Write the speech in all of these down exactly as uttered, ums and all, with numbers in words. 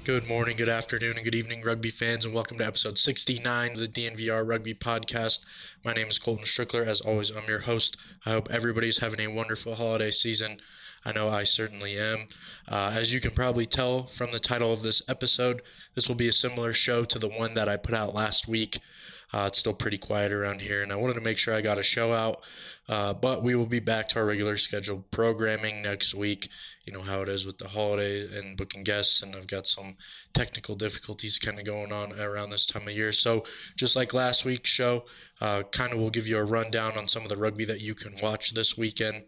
Good morning, good afternoon, and good evening, rugby fans, and welcome to episode sixty-nine of the D N V R Rugby Podcast. My name is Colton Strickler. As always, I'm your host. I hope everybody's having a wonderful holiday season. I know I certainly am. Uh, as you can probably tell from the title of this episode, this will be a similar show to the one that I put out last week. Uh, it's still pretty quiet around here, and I wanted to make sure I got a show out. Uh, but we will be back to our regular scheduled programming next week. You know how it is with the holiday and booking guests, and I've got some technical difficulties kind of going on around this time of year. So just like last week's show, uh, kind of will give you a rundown on some of the rugby that you can watch this weekend.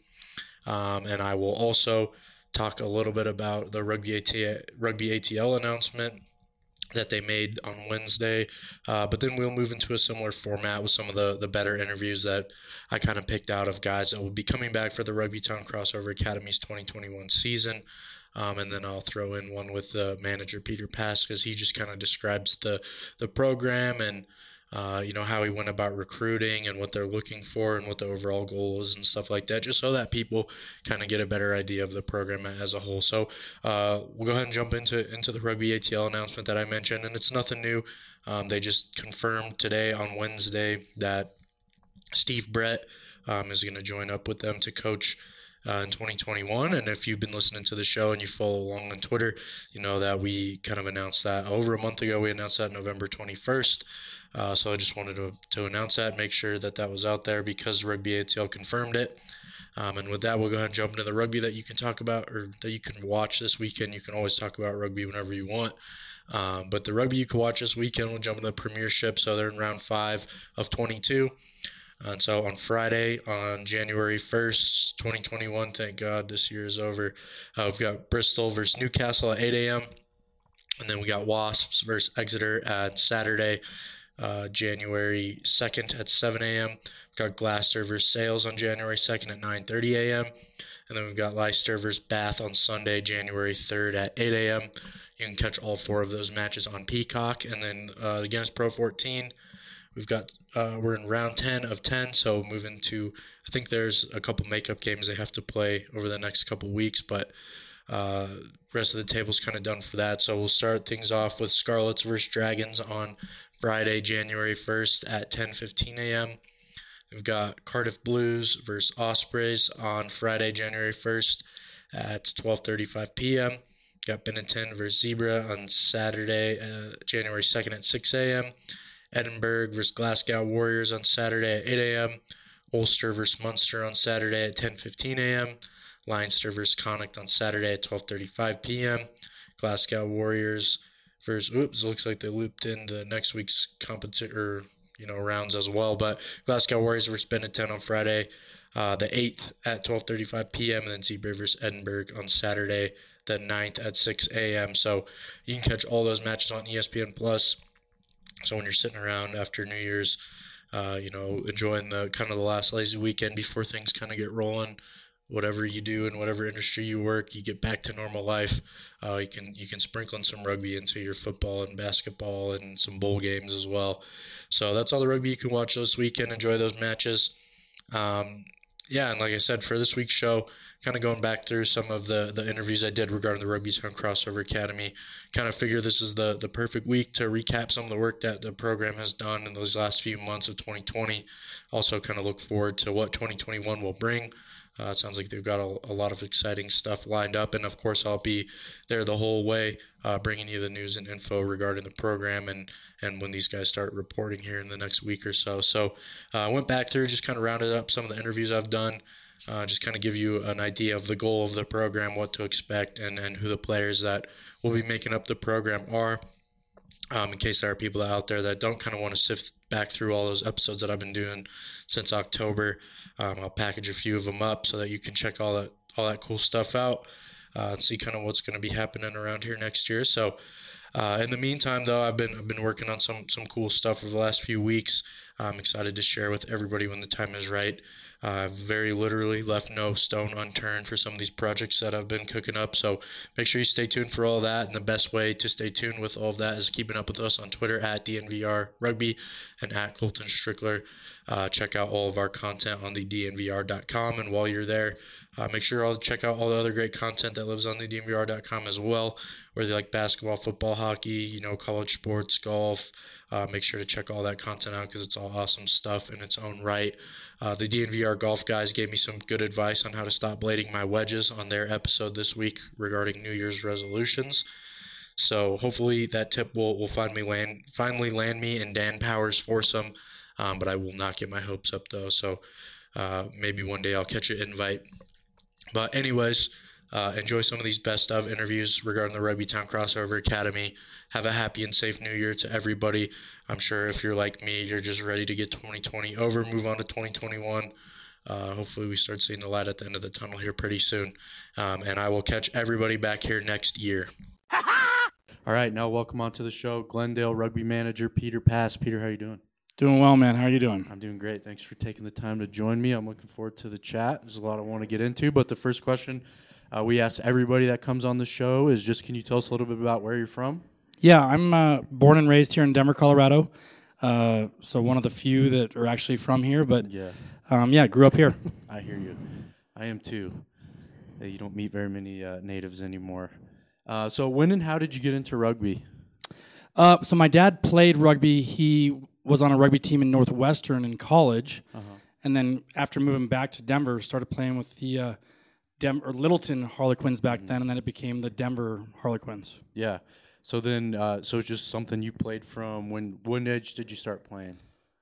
Um, and I will also talk a little bit about the Rugby A T L, Rugby A T L announcement that they made on Wednesday, uh, but then we'll move into a similar format with some of the, the better interviews that I kind of picked out of guys that will be coming back for the Rugby Town Crossover Academy's twenty twenty-one season, um, and then I'll throw in one with the manager, Peter Pass, because he just kind of describes the, the program and Uh, you know, how he went about recruiting and what they're looking for and what the overall goal is and stuff like that, just so that people kind of get a better idea of the program as a whole. So uh, we'll go ahead and jump into into the Rugby A T L announcement that I mentioned, and it's nothing new. Um, they just confirmed today on Wednesday that Steve Brett um, is going to join up with them to coach Uh, in twenty twenty-one, and if you've been listening to the show and you follow along on Twitter, you know that we kind of announced that over a month ago. We announced that November twenty-first, uh, so I just wanted to, to announce that, make sure that that was out there because Rugby A T L confirmed it. Um, and with that, we'll go ahead and jump into the rugby that you can talk about or that you can watch this weekend. You can always talk about rugby whenever you want. Um, but the rugby you can watch this weekend, we'll jump into the Premiership. So they're in round five of twenty-two. And so on Friday, on January first, twenty twenty-one, thank God this year is over, uh, we've got Bristol versus Newcastle at eight a.m. And then we got Wasps versus Exeter at Saturday, uh, January second at seven a.m. We've got Gloucester versus Sales on January second at nine thirty a.m. And then we've got Leicester versus Bath on Sunday, January third at eight a.m. You can catch all four of those matches on Peacock. And then uh, against Pro fourteen, We've got, uh, we're in round ten of ten, so moving to, I think there's a couple makeup games they have to play over the next couple weeks, but uh, rest of the table's kind of done for that. So we'll start things off with Scarlets versus Dragons on Friday, January first at ten fifteen a.m. We've got Cardiff Blues versus Ospreys on Friday, January first at twelve thirty-five p.m. We've got Benetton versus Zebra on Saturday, uh, January second at six a.m. Edinburgh versus Glasgow Warriors on Saturday at eight a.m. Ulster versus Munster on Saturday at ten fifteen a.m. Leinster versus Connacht on Saturday at twelve thirty-five p.m. Glasgow Warriors versus, oops, looks like they looped into next week's competition or, you know, rounds as well. But Glasgow Warriors versus Benetton on Friday, uh, the eighth at twelve thirty-five p.m. And then Zebra versus Edinburgh on Saturday, the ninth at six a.m. So you can catch all those matches on E S P N Plus. So when you're sitting around after New Year's, uh, you know, enjoying the kind of the last lazy weekend before things kind of get rolling, whatever you do in whatever industry you work, you get back to normal life. Uh, you can you can sprinkle in some rugby into your football and basketball and some bowl games as well. So that's all the rugby you can watch this weekend. Enjoy those matches. Um, yeah, and like I said, for this week's show, kind of going back through some of the, the interviews I did regarding the Rugby Town Crossover Academy, kind of figure this is the, the perfect week to recap some of the work that the program has done in those last few months of twenty twenty. Also kind of look forward to what twenty twenty-one will bring. Uh, it sounds like they've got a, a lot of exciting stuff lined up, and of course I'll be there the whole way uh, bringing you the news and info regarding the program and, and when these guys start reporting here in the next week or so. So uh, I went back through, just kind of rounded up some of the interviews I've done, uh, just kind of give you an idea of the goal of the program, what to expect, and, and who the players that will be making up the program are. Um, in case there are people out there that don't kind of want to sift back through all those episodes that I've been doing since October, um, I'll package a few of them up so that you can check all that all that cool stuff out uh, and see kind of what's going to be happening around here next year. So uh, in the meantime, though, I've been I've been working on some some cool stuff over the last few weeks. I'm excited to share with everybody when the time is right. Uh, I've very literally left no stone unturned for some of these projects that I've been cooking up. So make sure you stay tuned for all of that. And the best way to stay tuned with all of that is keeping up with us on Twitter at D N V R Rugby and at Colton Strickler. Uh, check out all of our content on the D N V R dot com. And while you're there, uh, make sure to check out all the other great content that lives on the D N V R dot com as well, whether you like basketball, football, hockey, you know, college sports, golf. Uh, make sure to check all that content out because it's all awesome stuff in its own right. Uh, the D N V R Golf guys gave me some good advice on how to stop blading my wedges on their episode this week regarding New Year's resolutions. So hopefully that tip will, will find me land, finally land me in Dan Powers' foursome, um, but I will not get my hopes up though. So uh, maybe one day I'll catch an invite. But anyways, uh, enjoy some of these best of interviews regarding the Rugby Town Crossover Academy. Have a happy and safe new year to everybody. I'm sure if you're like me, you're just ready to get twenty twenty over, move on to twenty twenty-one. Uh, hopefully we start seeing the light at the end of the tunnel here pretty soon. Um, and I will catch everybody back here next year. All right, now welcome on to the show, Glendale Rugby Manager Peter Pass. Peter, how you doing? Doing well, man. How are you doing? I'm doing great. Thanks for taking the time to join me. I'm looking forward to the chat. There's a lot I want to get into, but the first question uh, we ask everybody that comes on the show is just, can you tell us a little bit about where you're from? Yeah, I'm uh, born and raised here in Denver, Colorado. Uh, so one of the few that are actually from here, but yeah, um, yeah, grew up here. I hear you. I am too. Uh, You don't meet very many uh, natives anymore. Uh, so when and how did you get into rugby? Uh, so my dad played rugby. He was on a rugby team in Northwestern in college, Uh-huh. and then after moving back to Denver, started playing with the uh, Dem- or Littleton Harlequins back then, and then it became the Denver Harlequins. Yeah. So then, uh, so it's just something you played from. When when age did you start playing?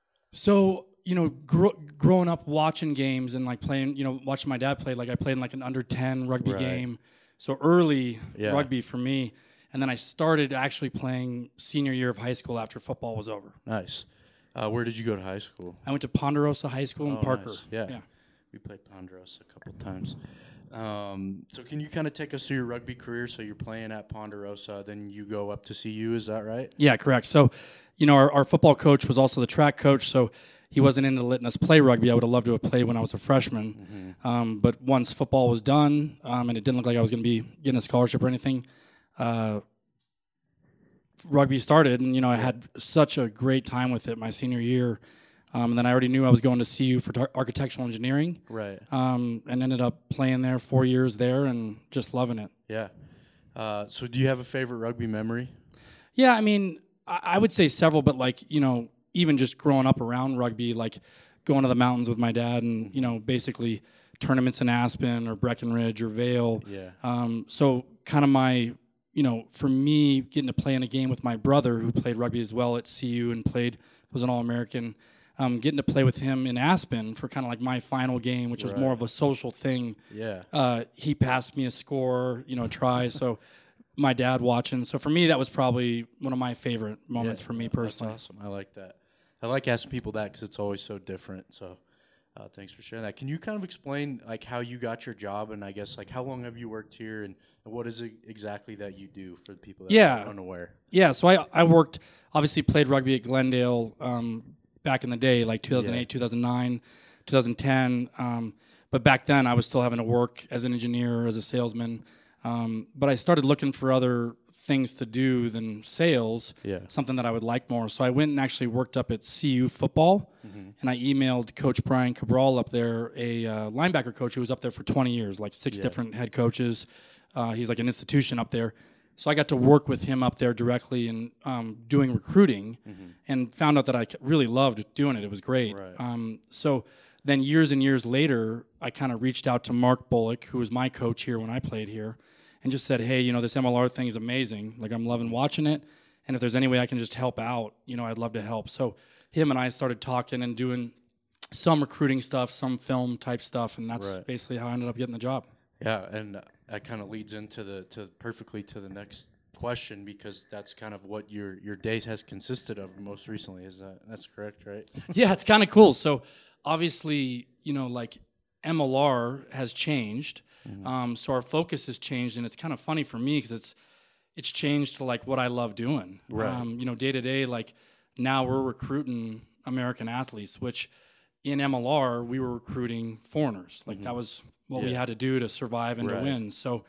So, you know, gr- growing up watching games and like playing, you know, watching my dad play, like I played in like an under ten rugby Right. game. So early Yeah. rugby for me. And then I started actually playing senior year of high school after football was over. Nice. Uh, where did you go to high school? I went to Ponderosa High School in Oh, Parker. nice. Yeah. yeah. We played Ponderosa a couple times. Um, so can you kind of take us through your rugby career? So you're playing at Ponderosa, then you go up to C U, is that right? Yeah, correct. So, you know, our, our football coach was also the track coach, so he wasn't into letting us play rugby. I would have loved to have played when I was a freshman. Mm-hmm. Um, but once football was done, um, and it didn't look like I was going to be getting a scholarship or anything, uh, rugby started. And, you know, I had such a great time with it my senior year. Um, and then I already knew I was going to C U for tar- architectural engineering. Right. Um, and ended up playing there four years there and just loving it. Yeah. Uh, so do you have a favorite rugby memory? Yeah, I mean, I, I would say several, but like, you know, even just growing up around rugby, like going to the mountains with my dad and, you know, basically tournaments in Aspen or Breckenridge or Vail. Yeah. Um, so kind of my, you know, for me, getting to play in a game with my brother who played rugby as well at C U and played, was an All-American, um, getting to play with him in Aspen for kind of like my final game, which was Right. more of a social thing. Yeah. Uh, he passed me a score, you know, try. So my dad watching. So for me, that was probably one of my favorite moments Yeah, for me that's personally. awesome. I like that. I like asking people that because it's always so different. So uh, thanks for sharing that. Can you kind of explain like how you got your job and I guess like how long have you worked here and, and what is it exactly that you do for the people that Yeah. are unaware? Yeah, so I I worked, obviously played rugby at Glendale um, back in the day, like two thousand eight, Yeah. two thousand nine, two thousand ten. Um, but back then, I was still having to work as an engineer, as a salesman. Um, but I started looking for other things to do than sales, Yeah. something that I would like more. So I went and actually worked up at C U football, Mm-hmm. and I emailed Coach Brian Cabral up there, a uh, linebacker coach who was up there for twenty years, like six Yeah. different head coaches. Uh, he's like an institution up there. So I got to work with him up there directly and um, doing recruiting, and found out that I really loved doing it. It was great. Right. Um, so then years and years later, I kind of reached out to Mark Bullock, who was my coach here when I played here, and just said, hey, you know, this M L R thing is amazing. Like, I'm loving watching it, and if there's any way I can just help out, you know, I'd love to help. So him and I started talking and doing some recruiting stuff, some film type stuff, and that's Right. basically how I ended up getting the job. Yeah, and uh, that kind of leads into the to perfectly to the next question because that's kind of what your your day has consisted of most recently. Is that that's correct, right? Yeah, it's kind of cool. So obviously, you know, like M L R has changed. Mm-hmm. Um, so our focus has changed, and it's kind of funny for me because it's it's changed to like what I love doing. Right. Um, you know, day to day, like now we're recruiting American athletes, which in M L R, we were recruiting foreigners. Like, mm-hmm. that was what yeah. we had to do to survive and right. to win. So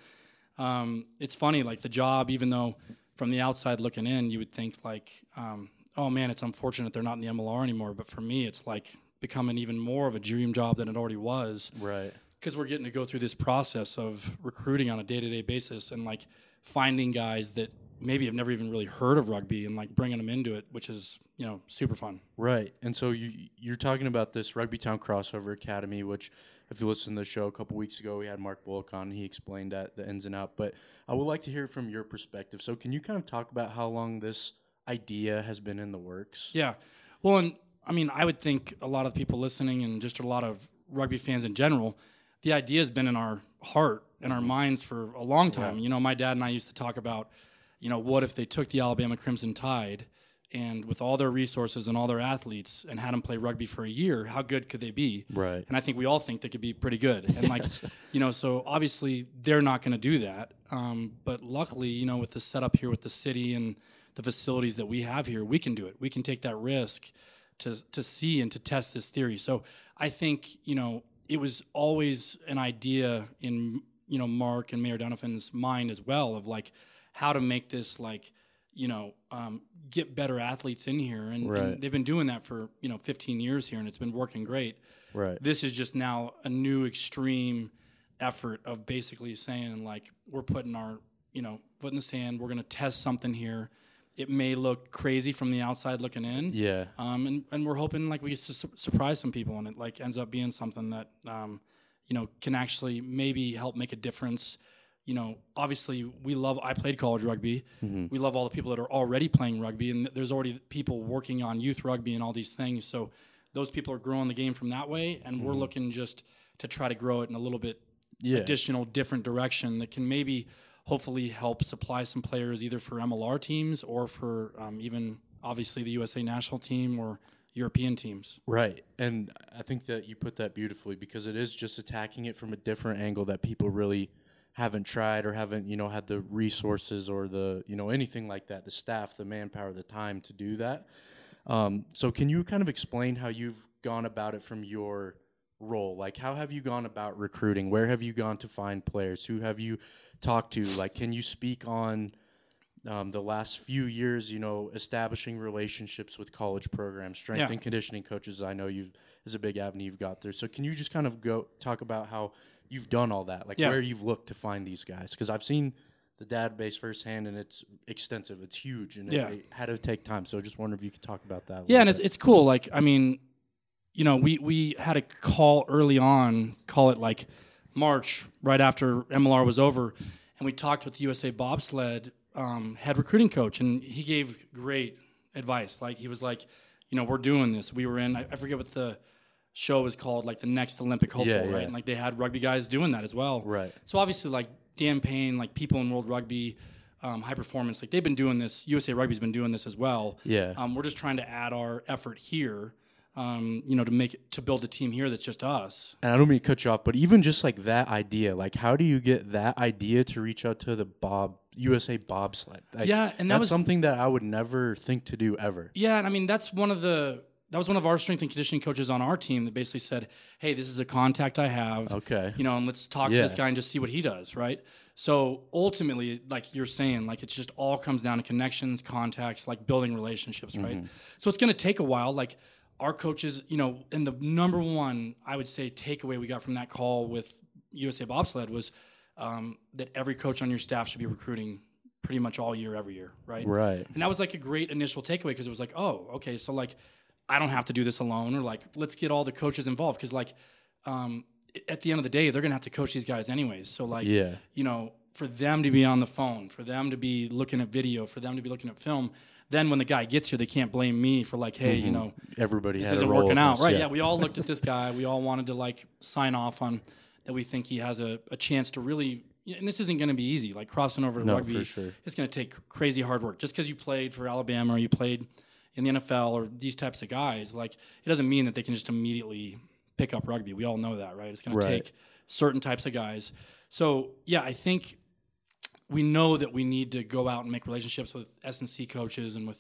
um, it's funny, like, the job, even though from the outside looking in, you would think, like, um, oh, man, it's unfortunate they're not in the M L R anymore. But for me, it's, like, becoming even more of a dream job than it already was. Right. Because we're getting to go through this process of recruiting on a day-to-day basis and, like, finding guys that maybe have never even really heard of rugby and, like, bringing them into it, which is, you know, super fun. Right. And so you, you're talking about this Rugby Town Crossover Academy, which if you listened to the show a couple weeks ago, we had Mark Bullock on. He explained that, the ins and outs. But I would like to hear from your perspective. So can you kind of talk about how long this idea has been in the works? Yeah. Well, and I mean, I would think a lot of people listening and just a lot of rugby fans in general, the idea has been in our heart and our minds for a long time. Yeah. You know, my dad and I used to talk about, you know, what if they took the Alabama Crimson Tide and with all their resources and all their athletes and had them play rugby for a year, how good could they be? Right. And I think we all think they could be pretty good. And, like, you know, so obviously they're not going to do that. Um, but luckily, you know, with the setup here with the city and the facilities that we have here, we can do it. We can take that risk to to see and to test this theory. So I think, you know, it was always an idea in, you know, Mark and Mayor Donovan's mind as well of, like, how to make this, like, you know, um, get better athletes in here. And, right. and they've been doing that for, you know, fifteen years here, and it's been working great. Right. This is just now a new extreme effort of basically saying, like, we're putting our, you know, foot in the sand. We're going to test something here. It may look crazy from the outside looking in. Yeah. Um, and, and we're hoping, like, we su- surprise some people, and it, like, ends up being something that, um, you know, can actually maybe help make a difference. You know, obviously we love, I played college rugby. Mm-hmm. We love all the people that are already playing rugby, and there's already people working on youth rugby and all these things. So those people are growing the game from that way, and mm-hmm. we're looking just to try to grow it in a little bit yeah. additional, different direction that can maybe hopefully help supply some players either for M L R teams or for um, even obviously the U S A national team or European teams. Right. And I think that you put that beautifully, because it is just attacking it from a different angle that people really haven't tried or haven't, you know, had the resources or the, you know, anything like that, the staff, the manpower, the time to do that. Um, so can you kind of explain how you've gone about it from your role? Like, how have you gone about recruiting? Where have you gone to find players? Who have you talked to? Like, can you speak on um, the last few years, you know, establishing relationships with college programs, strength yeah. and conditioning coaches? I know you've is a big avenue you've got there. So can you just kind of go talk about how you've done all that, like yeah. where you've looked to find these guys? Because I've seen the database firsthand, and it's extensive. It's huge, and yeah. it, it had to take time. So I just wonder if you could talk about that. Yeah, and it's, it's cool. Like, I mean, you know, we, we had a call early on, call it like March, right after M L R was over, and we talked with the U S A bobsled um, head recruiting coach, and he gave great advice. Like, he was like, you know, we're doing this. We were in, I, I forget what the show was called, like the Next Olympic Hopeful, yeah, yeah. right? And like they had rugby guys doing that as well. Right. So obviously, like Dan Payne, like people in World Rugby, um, High Performance, like they've been doing this. U S A Rugby's been doing this as well. Yeah. Um, we're just trying to add our effort here, um, you know, to make it, to build a team here that's just us. And I don't mean to cut you off, but even just like that idea, like how do you get that idea to reach out to the Bob U S A bobsled? Like, yeah, and that that's was something that I would never think to do ever. Yeah, and I mean that's one of the that was one of our strength and conditioning coaches on our team that basically said, "Hey, this is a contact I have. Okay, you know, and let's talk yeah. to this guy and just see what he does." Right. So ultimately, like you're saying, like it just all comes down to connections, contacts, like building relationships, right? Mm-hmm. So it's going to take a while. Like our coaches, you know, and the number one I would say takeaway we got from that call with U S A Bobsled was um, that every coach on your staff should be recruiting pretty much all year, every year, right? Right. And that was like a great initial takeaway because it was like, oh, okay, so like I don't have to do this alone, or like let's get all the coaches involved because like um, at the end of the day, they're gonna have to coach these guys anyways. So like, yeah. you know, for them to be on the phone, for them to be looking at video, for them to be looking at film. Then when the guy gets here, they can't blame me for like, hey, mm-hmm. you know, everybody this had isn't a role working out, this, right? Yeah. yeah, we all looked at this guy. We all wanted to like sign off on that. We think he has a, a chance to really. And this isn't going to be easy. Like crossing over to no, rugby, for sure. It's going to take crazy hard work. Just because you played for Alabama or you played in the N F L or these types of guys, like it doesn't mean that they can just immediately pick up rugby. We all know that, right? It's going right. to take certain types of guys. So yeah, I think we know that we need to go out and make relationships with S and C coaches and with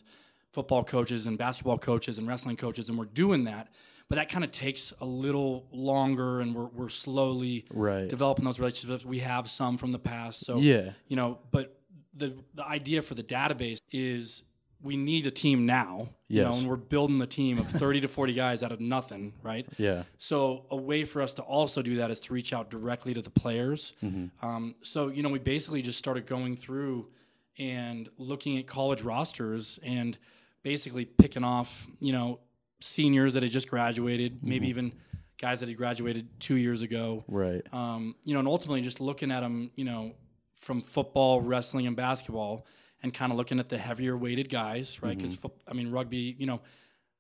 football coaches and basketball coaches and wrestling coaches, and we're doing that. But that kind of takes a little longer, and we're we're slowly Right. developing those relationships. We have some from the past, so Yeah. you know. But the the idea for the database is we need a team now, you Yes. know, and we're building the team of thirty to forty guys out of nothing, right? Yeah. So a way for us to also do that is to reach out directly to the players. Mm-hmm. Um, so you know, we basically just started going through and looking at college rosters and basically picking off, you know, seniors that had just graduated, mm-hmm. maybe even guys that had graduated two years ago. Right. Um, you know, and ultimately just looking at them, you know, from football, wrestling, and basketball, and kind of looking at the heavier weighted guys, right? Because, mm-hmm. I mean, rugby, you know,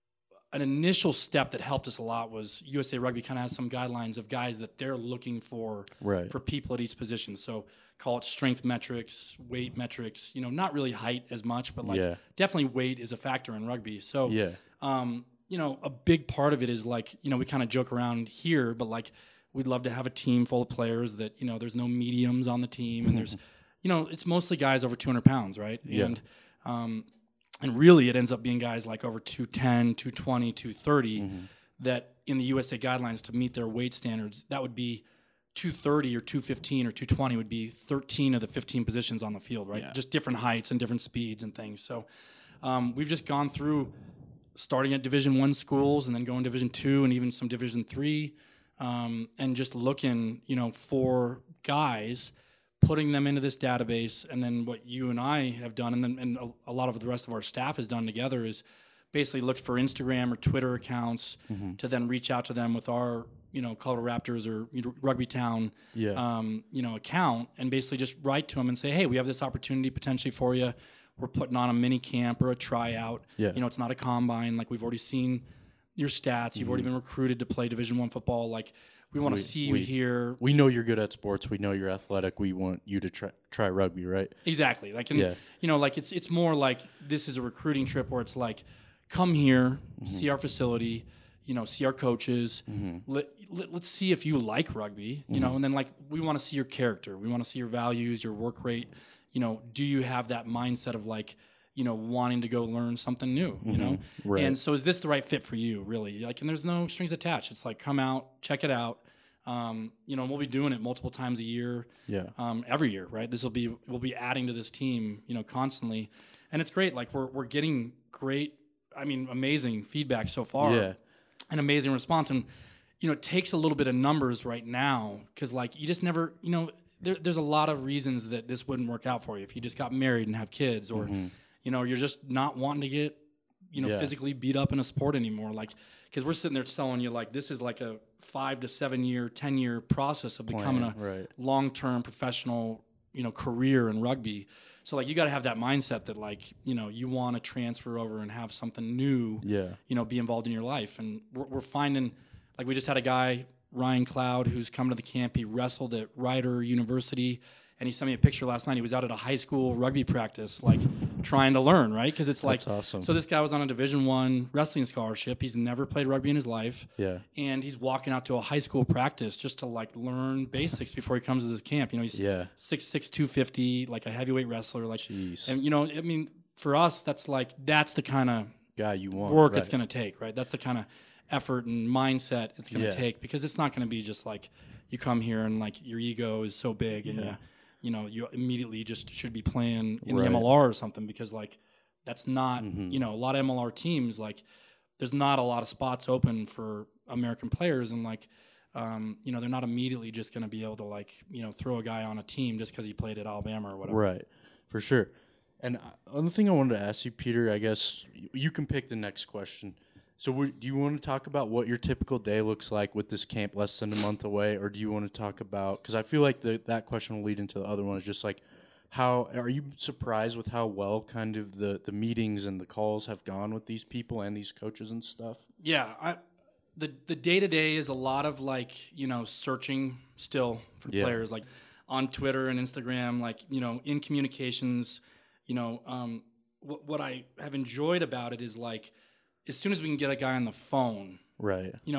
an initial step that helped us a lot was U S A Rugby kind of has some guidelines of guys that they're looking for right. for people at each position. So call it strength metrics, weight metrics, you know, not really height as much, but like yeah. definitely weight is a factor in rugby. So, yeah. um, you know, a big part of it is like, you know, we kind of joke around here, but like we'd love to have a team full of players that, you know, there's no mediums on the team and there's, you know, it's mostly guys over two hundred pounds, right? Yeah. And, um, and really it ends up being guys like over two ten, two twenty, two thirty mm-hmm. that in the U S A guidelines to meet their weight standards, that would be two thirty or two fifteen or two twenty would be thirteen of the fifteen positions on the field, right? Yeah. Just different heights and different speeds and things. So um, we've just gone through starting at Division One schools and then going Division Two and even some Division Three, um, and just looking, you know, for guys, putting them into this database, and then what you and I have done, and then and a, a lot of the rest of our staff has done together is basically look for Instagram or Twitter accounts mm-hmm. to then reach out to them with our, you know, Colorado Raptors or you know, Rugby Town, yeah. um, you know, account, and basically just write to them and say, hey, we have this opportunity potentially for you. We're putting on a mini camp or a tryout. Yeah. You know, it's not a combine. Like we've already seen your stats. You've mm-hmm. already been recruited to play Division One football. Like we want to see you we, here. We know you're good at sports. We know you're athletic. We want you to try, try rugby, right? Exactly. Like, and, yeah. you know, like it's it's more like this is a recruiting trip where it's like, come here, mm-hmm. see our facility, you know, see our coaches. Mm-hmm. Let, let, let's see if you like rugby, you mm-hmm. know, and then like we want to see your character. We want to see your values, your work rate. You know, do you have that mindset of like, you know, wanting to go learn something new, you know? Mm-hmm. Right. And so is this the right fit for you, really? Like, and there's no strings attached. It's like, come out, check it out. Um, you know, and we'll be doing it multiple times a year. Yeah. Um, every year, right? This will be, we'll be adding to this team, you know, constantly. And it's great. Like we're, we're getting great, I mean, amazing feedback so far. Yeah. An amazing response. And, you know, it takes a little bit of numbers right now because, like, you just never, you know, there, there's a lot of reasons that this wouldn't work out for you if you just got married and have kids or, mm-hmm. you know, you're just not wanting to get, you know, yeah. physically beat up in a sport anymore. Like, because we're sitting there telling you, like, this is like a five to seven year, ten year process of becoming Plan, a right. long-term professional, you know, career in rugby. So, like, you got to have that mindset that, like, you know, you want to transfer over and have something new, yeah. you know, be involved in your life. And we're, we're finding, like, we just had a guy, Ryan Cloud, who's come to the camp. He wrestled at Rider University, and he sent me a picture last night. He was out at a high school rugby practice, like, trying to learn, right? Because it's like, that's awesome. So this guy was on a Division One wrestling scholarship. He's never played rugby in his life. Yeah. And he's walking out to a high school practice just to, like, learn basics before he comes to this camp. You know, he's yeah. six six, two fifty, like a heavyweight wrestler. Like, Jeez. And, you know, I mean, for us, that's like, that's the kind of guy you want, work right. it's going to take, right? That's the kind of effort and mindset it's going to yeah. take, because it's not going to be just like you come here and, like, your ego is so big and, yeah. you, you know, you immediately just should be playing in right. the M L R or something, because, like, that's not, mm-hmm. you know, a lot of M L R teams, like, there's not a lot of spots open for American players, and, like, um, you know, they're not immediately just going to be able to, like, you know, throw a guy on a team just because he played at Alabama or whatever. Right, for sure. And another thing I wanted to ask you, Peter, I guess you can pick the next question. So do you want to talk about what your typical day looks like with this camp less than a month away, or do you want to talk about, because I feel like the, that question will lead into the other one, is just like, how are you surprised with how well kind of the, the meetings and the calls have gone with these people and these coaches and stuff? Yeah, I, the the day-to-day is a lot of, like, you know, searching still for yeah. players, like on Twitter and Instagram, like, you know, in communications, you know, um, what, what I have enjoyed about it is, like, as soon as we can get a guy on the phone, right? You know,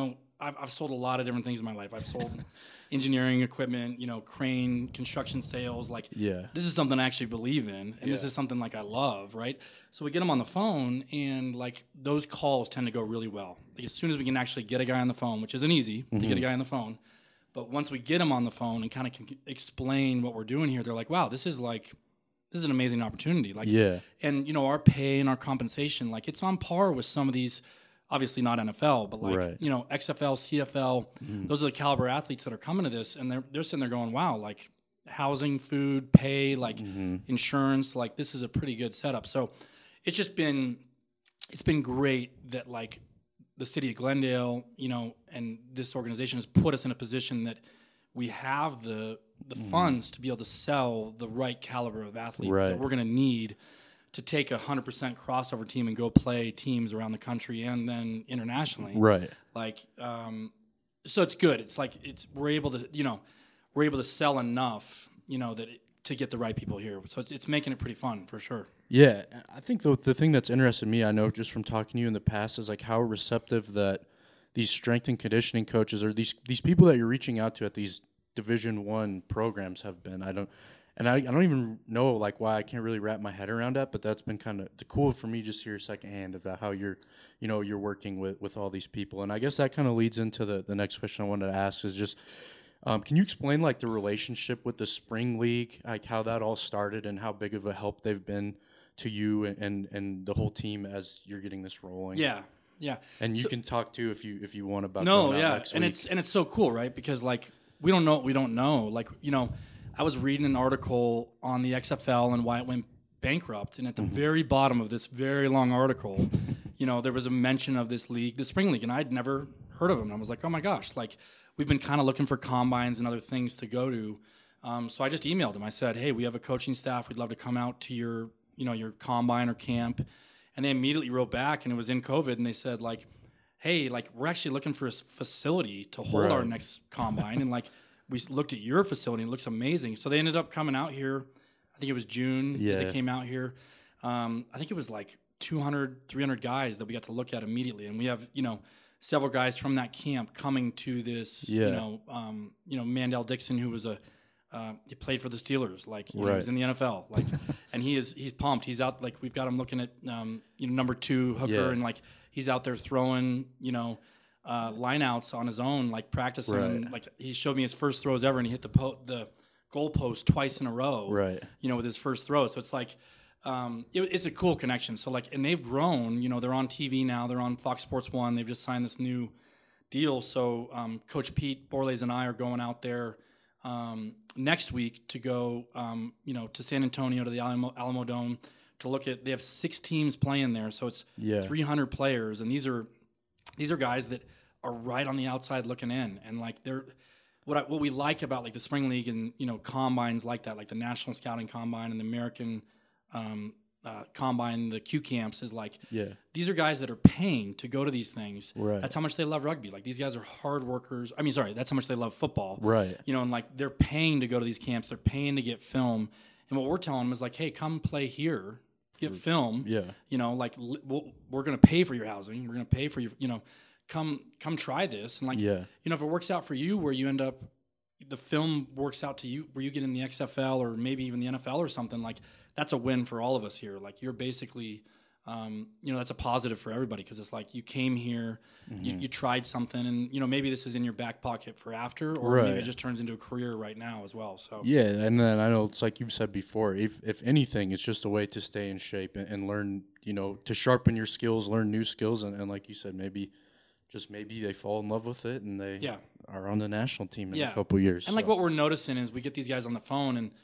I've, I've sold a lot of different things in my life. I've sold engineering equipment, you know, crane, construction sales. Like, Yeah. this is something I actually believe in, and this Yeah. is something like I love, right? So we get them on the phone, and like those calls tend to go really well. Like, as soon as we can actually get a guy on the phone, which isn't easy to get a guy on the phone, but once we get him on the phone and kind of can explain what we're doing here, they're like, wow, this is like, this is an amazing opportunity. Like, Yeah. and you know, our pay and our compensation, like it's on par with some of these, obviously not N F L, but like, Right. you know, X F L, C F L, those are the caliber athletes that are coming to this, and they're they're sitting there going, wow, like housing, food, pay, like insurance, like this is a pretty good setup. So it's just been, it's been great that like the city of Glendale, you know, and this organization has put us in a position that we have the the funds to be able to sell the right caliber of athlete Right. that we're going to need to take a one hundred percent crossover team and go play teams around the country and then internationally. Right. Like, um, so it's good. It's like, it's, we're able to, you know, we're able to sell enough, you know, that it, to get the right people here. So it's, it's making it pretty fun for sure. Yeah, I think the the thing that's interested me, I know just from talking to you in the past, is like how receptive that these strength and conditioning coaches or these these people that you're reaching out to at these Division One programs have been. I don't, and I, I don't even know like why I can't really wrap my head around that. But that's been kind of cool for me just to hear secondhand about how you're, you know, you're working with, with all these people. And I guess that kind of leads into the the next question I wanted to ask is just. Um, can you explain like the relationship with the Spring League, like how that all started and how big of a help they've been to you and and the whole team as you're getting this rolling? Yeah. Yeah. And you So- can talk too if you if you want about No, going out yeah, next and week. it's and it's so cool, right? Because like we don't know what we don't know. Like, you know, I was reading an article on the X F L and why it went bankrupt, and at the very bottom of this very long article, you know, there was a mention of this league, the Spring League, and I'd never heard of them. I was like, oh my gosh, like we've been kind of looking for combines and other things to go to. Um, so I just emailed them. I said, hey, we have a coaching staff. We'd love to come out to your, you know, your combine or camp. And they immediately wrote back, and it was in COVID, and they said like, hey, like we're actually looking for a s- facility to hold our Right. next combine. And like we s- looked at your facility, and it looks amazing. So they ended up coming out here. I think it was June that Yeah. they came out here. Um, I think it was like two hundred, three hundred guys that we got to look at immediately. And we have, you know, several guys from that camp coming to this, Yeah. you know, um, you know, Mandel Dixon, who was a, uh, he played for the Steelers, like you know, he was Right. in the N F L, like, and he is he's pumped. He's out, like we've got him looking at, um, you know, number two hooker, Yeah. and like he's out there throwing, you know, uh, lineouts on his own, like practicing. Right. Like he showed me his first throws ever, and he hit the po- the goalpost twice in a row, Right. you know, with his first throw. So it's like, um, it, it's a cool connection. So like, and they've grown. You know, they're on T V now. They're on Fox Sports One. They've just signed this new deal. So um, Coach Pete Borlays and I are going out there um, next week to go, um, you know, to San Antonio to the Alamo, Alamo Dome to look at. They have six teams playing there, so it's Yeah. three hundred players, and these are these are guys that are right on the outside looking in, and like they're. What I, what we like about like the Spring League and you know combines like that, like the National Scouting Combine and the American um, uh, Combine, the Q camps, is like Yeah. these are guys that are paying to go to these things. Right. That's how much they love rugby. Like these guys are hard workers. I mean, sorry, that's how much they love football. Right. You know, and like they're paying to go to these camps. They're paying to get film. And what we're telling them is like, hey, come play here, get film. Yeah. You know, like li- we'll, we're going to pay for your housing. We're going to pay for your, you know, come come try this. And like, Yeah. you know, if it works out for you where you end up, the film works out to you where you get in the X F L or maybe even the N F L or something, like that's a win for all of us here. Like you're basically, um, you know, that's a positive for everybody because it's like you came here, Mm-hmm. you, you tried something, and you know maybe this is in your back pocket for after, or Right. maybe it just turns into a career right now as well. So Yeah, and then I know it's like you've said before. If if anything, it's just a way to stay in shape and, and learn. You know, to sharpen your skills, learn new skills, and, and like you said, maybe just maybe they fall in love with it and they Yeah. are on the national team in Yeah. a couple years. And like so. what we're noticing is we get these guys on the phone and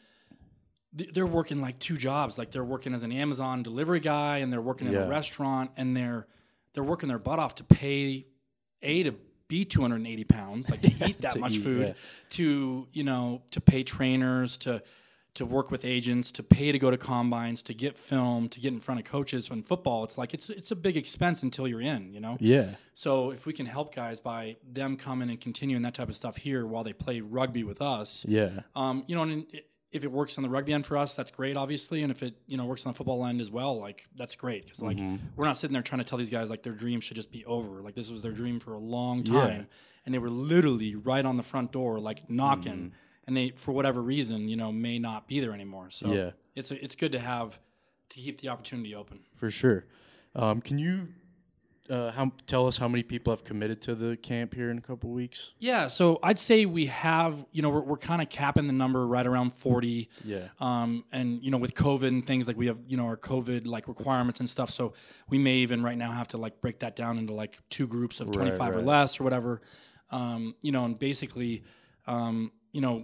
th- they're working like two jobs. Like they're working as an Amazon delivery guy and they're working in Yeah. a restaurant and they're they're working their butt off to pay a to be two hundred eighty pounds, like to eat that To much eat, food, yeah. to you know to pay trainers, to to work with agents, to pay to go to combines, to get film, to get in front of coaches. In football, it's like it's it's a big expense until you're in, you know. Yeah, So if we can help guys by them coming and continuing that type of stuff here while they play rugby with us, yeah, um, you know, and it, if it works on the rugby end for us, that's great, obviously. And if it, you know, works on the football end as well, like, that's great. Because, like, mm-hmm. we're not sitting there trying to tell these guys, like, their dream should just be over. Like, this was their dream for a long time. Yeah. And they were literally right on the front door, like, knocking. Mm-hmm. And they, for whatever reason, you know, may not be there anymore. So yeah. it's a, it's good to have, to keep the opportunity open. For sure. Um, can you uh, how, tell us how many people have committed to the camp here in a couple weeks? Yeah, so I'd say we have, you know, we're, we're kind of capping the number right around forty. Yeah. Um, and, you know, with COVID and things, like we have, you know, our COVID, like, requirements and stuff. So we may even right now have to, like, break that down into, like, two groups of twenty-five right, right. or less or whatever. Um, you know, and basically, um, you know,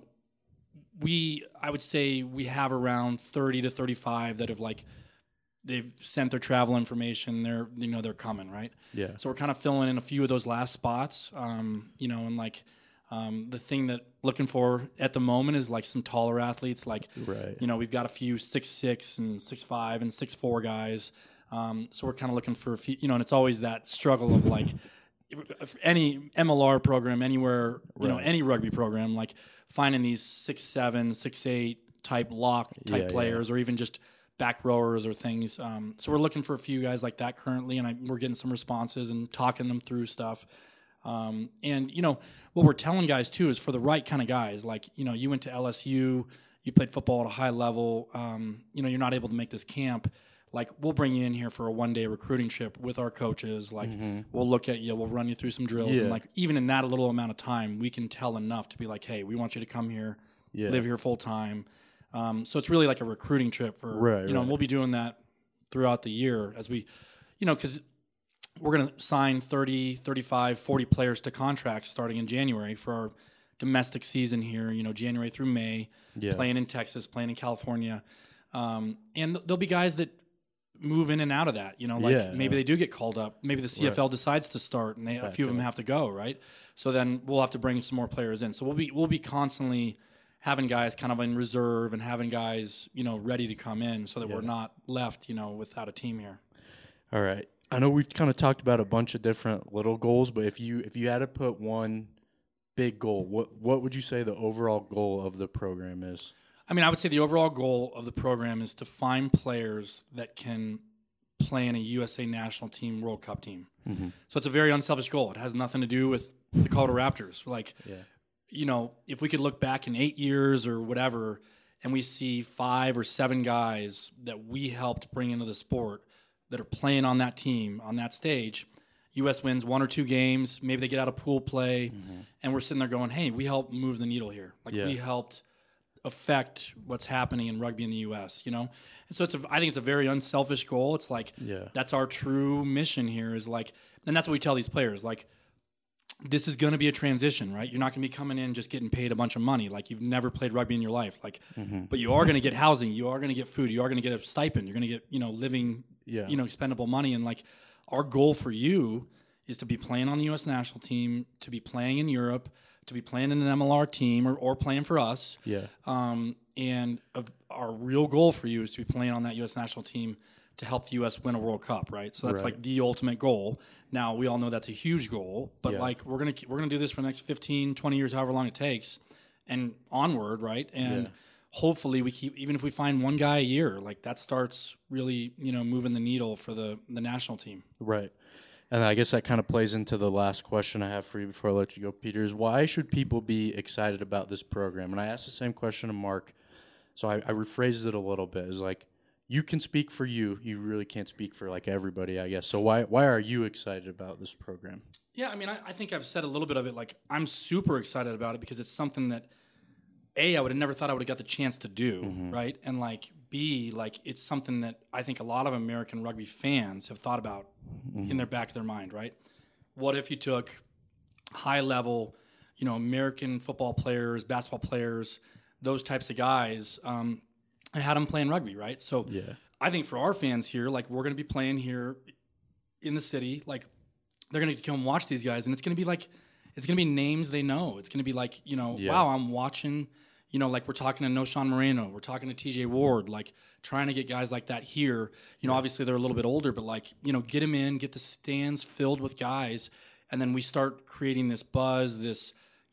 we, I would say we have around thirty to thirty-five that have, like, they've sent their travel information. They're, you know, they're coming, right? Yeah. So we're kind of filling in a few of those last spots, um, you know, and like um, the thing that looking for at the moment is like some taller athletes. Like, right. you know, we've got a few six six and six five and six four guys. Um, so we're kind of looking for a few, you know, and it's always that struggle of like if, if any M L R program anywhere, you right. know, any rugby program, like finding these six seven, six eight type lock type yeah, players, yeah. or even just back rowers or things. Um, so we're looking for a few guys like that currently, and I, we're getting some responses and talking them through stuff. Um, and, you know, what we're telling guys, too, is for the right kind of guys. Like, you know, you went to L S U, you played football at a high level, um, you know, you're not able to make this camp. Like, we'll bring you in here for a one-day recruiting trip with our coaches. Like, mm-hmm. we'll look at you, we'll run you through some drills. Yeah. And, like, even in that little amount of time, we can tell enough to be like, hey, we want you to come here, yeah. live here full-time. Um, so it's really like a recruiting trip for, right, you know, right. we'll be doing that throughout the year as we, you know, because we're going to sign thirty, thirty-five, forty players to contracts starting in January for our domestic season here, you know, January through May, yeah. playing in Texas, playing in California. Um, and there'll be guys that move in and out of that, you know, like yeah, maybe yeah. they do get called up. Maybe the C F L right. decides to start and they, a few of them have to go, right? So then we'll have to bring some more players in. So we'll be we'll be constantly having guys kind of in reserve and having guys, you know, ready to come in so that yeah. we're not left, you know, without a team here. All right. I know we've kind of talked about a bunch of different little goals, but if you if you had to put one big goal, what what would you say the overall goal of the program is? I mean, I would say the overall goal of the program is to find players that can play in a U S A national team World Cup team. Mm-hmm. So it's a very unselfish goal. It has nothing to do with the Colorado Raptors. Like, yeah. you know, if we could look back in eight years or whatever, and we see five or seven guys that we helped bring into the sport that are playing on that team, on that stage, U S wins one or two games, maybe they get out of pool play, mm-hmm. and we're sitting there going, hey, we helped move the needle here. Like, yeah. we helped affect what's happening in rugby in the U S, you know? And so it's a, I think it's a very unselfish goal. It's like, yeah. that's our true mission here is like, and that's what we tell these players, like, this is going to be a transition, right? You're not going to be coming in just getting paid a bunch of money. Like, you've never played rugby in your life. Like, mm-hmm. but you are going to get housing. You are going to get food. You are going to get a stipend. You're going to get, you know, living, yeah. you know, expendable money. And like, our goal for you is to be playing on the U S national team, to be playing in Europe, to be playing in an M L R team or, or playing for us. Yeah. Um, and of our real goal for you is to be playing on that U S national team to help the U S win a World Cup, right? So that's right. like the ultimate goal. Now, we all know that's a huge goal, but yeah. like we're going to we're going to do this for the next fifteen, twenty years, however long it takes, and onward, right? And yeah. hopefully we keep, even if we find one guy a year, like that starts really, you know, moving the needle for the the national team. Right. And I guess that kind of plays into the last question I have for you before I let you go, Peter, is why should people be excited about this program? And I asked the same question to Mark, so I, I rephrased it a little bit. It's like, you can speak for you. You really can't speak for, like, everybody, I guess. So why why are you excited about this program? Yeah, I mean, I, I think I've said a little bit of it. Like, I'm super excited about it because it's something that, A, I would have never thought I would have got the chance to do, mm-hmm. right? And, like, B, like, it's something that I think a lot of American rugby fans have thought about mm-hmm. in their back of their mind, right? What if you took high-level, you know, American football players, basketball players, those types of guys, um, and had them playing rugby, right? So yeah. I think for our fans here, like, we're going to be playing here in the city. Like, they're going to come watch these guys, and it's going to be like, it's going to be names they know. It's going to be like, you know, yeah. wow, I'm watching, you know, like we're talking to Noshawn Moreno, we're talking to T J Ward, like trying to get guys like that here. You know, obviously they're a little bit older, but like, you know, get them in, get the stands filled with guys, and then we start creating this buzz, this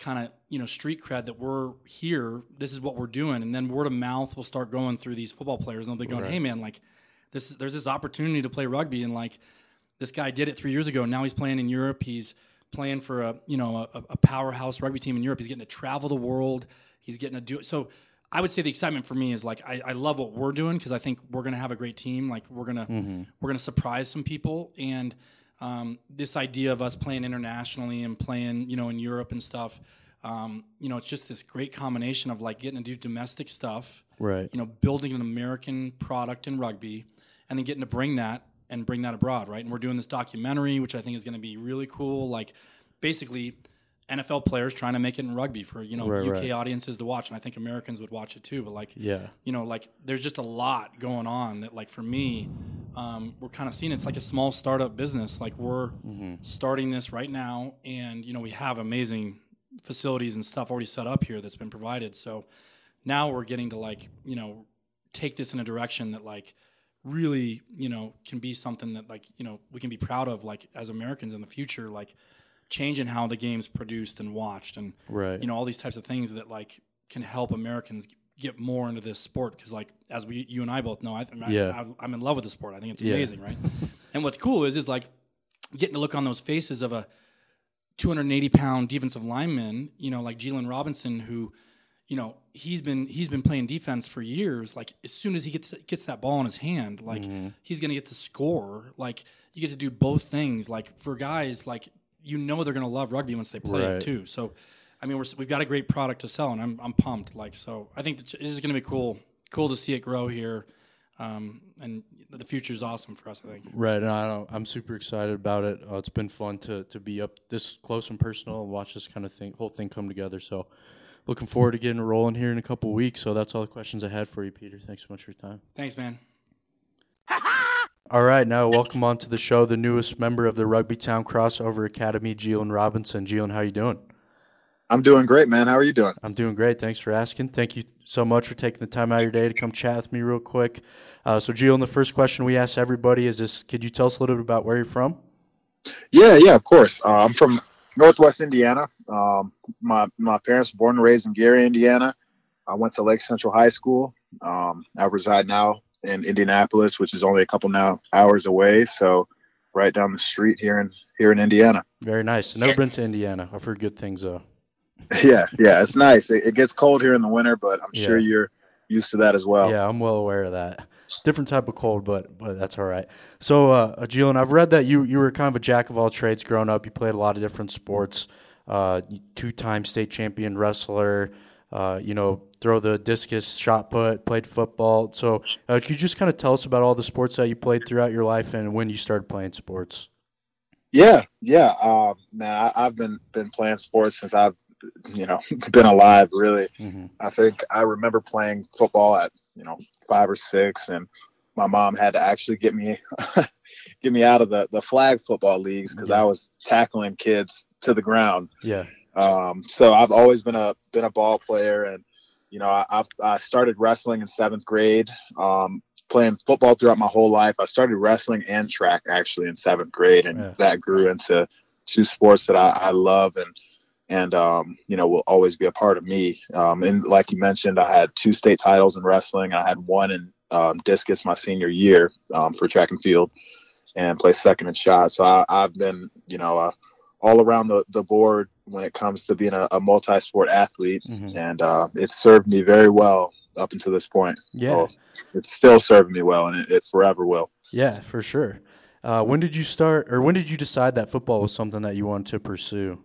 kind of, you know, street cred that we're here, this is what we're doing. And then word of mouth will start going through these football players, and they'll be going, Right. hey, man, like, this is, there's this opportunity to play rugby, and, like, this guy did it three years ago, and now he's playing in Europe. He's playing for a, you know, a, a powerhouse rugby team in Europe. He's getting to travel the world. He's getting to do it. So I would say the excitement for me is, like, I, I love what we're doing because I think we're going to have a great team. Like, we're going to Mm-hmm. we're going to surprise some people. And um, this idea of us playing internationally and playing, you know, in Europe and stuff, um, you know, it's just this great combination of, like, getting to do domestic stuff, Right. you know, building an American product in rugby, and then getting to bring that and bring that abroad, right? And we're doing this documentary, which I think is going to be really cool. Like, basically, N F L players trying to make it in rugby for, you know, Right, U K right. audiences to watch, and I think Americans would watch it too. But, like, Yeah. you know, like, there's just a lot going on that, like, for me, um, we're kind of seeing it's like a small startup business. Like, we're Mm-hmm. starting this right now, and, you know, we have amazing facilities and stuff already set up here that's been provided. So now we're getting to, like, you know, take this in a direction that, like, really, you know, can be something that, like, you know, we can be proud of, like, as Americans in the future, like, changing how the game's produced and watched, and, Right. you know, all these types of things that, like, can help Americans get more into this sport. Because, like, as we, you and I both know, I, I, Yeah. I, I'm in love with the sport. I think it's Yeah. amazing, right? And what's cool is, is like, getting to look on those faces of a two hundred eighty pound defensive lineman, you know, like Jalen Robinson, who, you know, he's been he's been playing defense for years. Like, as soon as he gets gets that ball in his hand, like, Mm-hmm. he's gonna get to score. Like, you get to do both things. Like, for guys, like, you know, they're gonna love rugby once they play Right. it too. So, I mean, we're, we've got a great product to sell, and I'm I'm pumped. Like, so I think that this is gonna be cool. Cool to see it grow here, um, and the future's awesome for us, I think. Right, and I don't, I'm super excited about it. Uh, it's been fun to to be up this close and personal and watch this kind of thing, whole thing come together. So, looking forward to getting it rolling here in a couple weeks. So that's all the questions I had for you, Peter. Thanks so much for your time. Thanks, man. All right, now welcome on to the show, the newest member of the Rugby Town Crossover Academy, Jalen Robinson. Jalen, how you doing? I'm doing great, man. How are you doing? I'm doing great. Thanks for asking. Thank you so much for taking the time out of your day to come chat with me real quick. Uh, so, Jalen, the first question we ask everybody is this: could you tell us a little bit about where you're from? Yeah, yeah, of course. Uh, I'm from Northwest Indiana. Um, my my parents were born and raised in Gary, Indiana. I went to Lake Central High School. Um, I reside now in Indianapolis, which is only a couple now hours away. So, right down the street here in here in Indiana. Very nice. I've never been to Indiana. I've heard good things, though. Yeah, yeah, it's nice. It, it gets cold here in the winter, but I'm sure Yeah. you're used to that as well. Yeah, I'm well aware of that. Different type of cold, but but that's all right. So, uh, Jalen, I've read that you you were kind of a jack of all trades growing up. You played a lot of different sports. Uh, two-time state champion wrestler. Uh, you know, throw the discus, shot put, played football. So, uh, could you just kind of tell us about all the sports that you played throughout your life and when you started playing sports? Yeah, yeah. Um, man, I, I've been been playing sports since I've you know been alive. Really, Mm-hmm. I think I remember playing football at you know five or six, and my mom had to actually get me get me out of the the flag football leagues because Yeah. I was tackling kids to the ground. Yeah. Um, so I've always been a been a ball player, and you know I I've, I started wrestling in seventh grade. Um, playing football throughout my whole life. I started wrestling and track actually in seventh grade, and Yeah. that grew into two sports that I, I love and and um, you know will always be a part of me. Um, and like you mentioned, I had two state titles in wrestling. I had one in um, discus my senior year um, for track and field, and placed second in shot. So I, I've been you know uh, all around the, the board when it comes to being a, a multi-sport athlete, Mm-hmm. and uh, it's served me very well up until this point. Yeah. So it's still serving me well, and it, it forever will. Yeah, for sure. Uh, when did you start, or when did you decide that football was something that you wanted to pursue?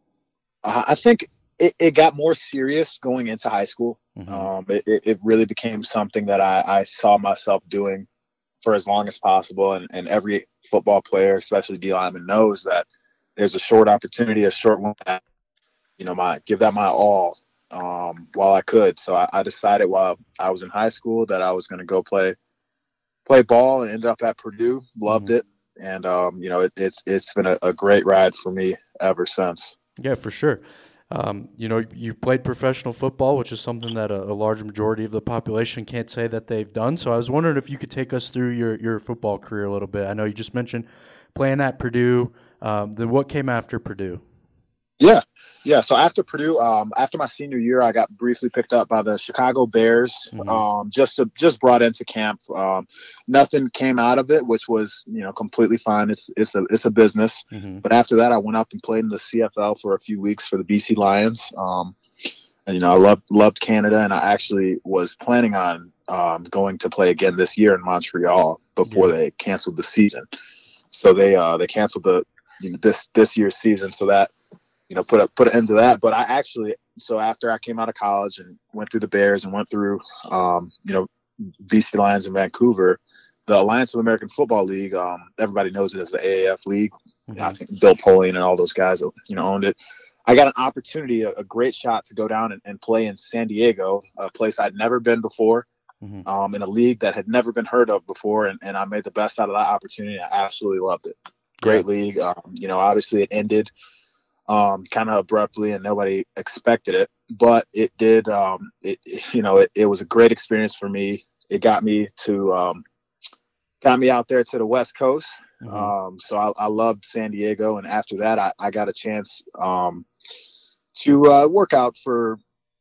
Uh, I think it, it got more serious going into high school. Mhm. Um, it, it it really became something that I, I saw myself doing for as long as possible. And, and every football player, especially D lineman, knows that there's a short opportunity, a short one. That, you know, my give that my all um, while I could. So I, I decided while I was in high school that I was going to go play play ball, and ended up at Purdue. Loved Mhm. it, and um, you know, it, it's it's been a, a great ride for me ever since. Yeah, for sure. Um, you know, you played professional football, which is something that a, a large majority of the population can't say that they've done. So I was wondering if you could take us through your, your football career a little bit. I know you just mentioned playing at Purdue. Um, then what came after Purdue? Yeah, Yeah, so after Purdue, um, after my senior year, I got briefly picked up by the Chicago Bears, Mhm. um, just to, just brought into camp. Um, nothing came out of it, which was you know completely fine. It's it's a it's a business. Mhm. But after that, I went up and played in the C F L for a few weeks for the B C Lions. Um, and you know, I loved loved Canada, and I actually was planning on um, going to play again this year in Montreal before Yeah. they canceled the season. So they uh, they canceled the you know, this this year's season, so that. You know, put a put an end to that. But I actually, so after I came out of college and went through the Bears and went through, um, you know, B C Lions in Vancouver, the Alliance of American Football League. Um, everybody knows it as the A A F League. Mhm. I think Bill Polian and all those guys, you know, owned it. I got an opportunity, a, a great shot to go down and, and play in San Diego, a place I'd never been before, Mhm. um, in a league that had never been heard of before, and, and I made the best out of that opportunity. I absolutely loved it. Great Yeah. league. Um, you know, obviously it ended um, kind of abruptly and nobody expected it, but it did. Um, it, you know, it, it was a great experience for me. It got me to, um, got me out there to the West Coast. Mhm. Um, so I, I loved San Diego. And after that, I, I got a chance, um, to, uh, work out for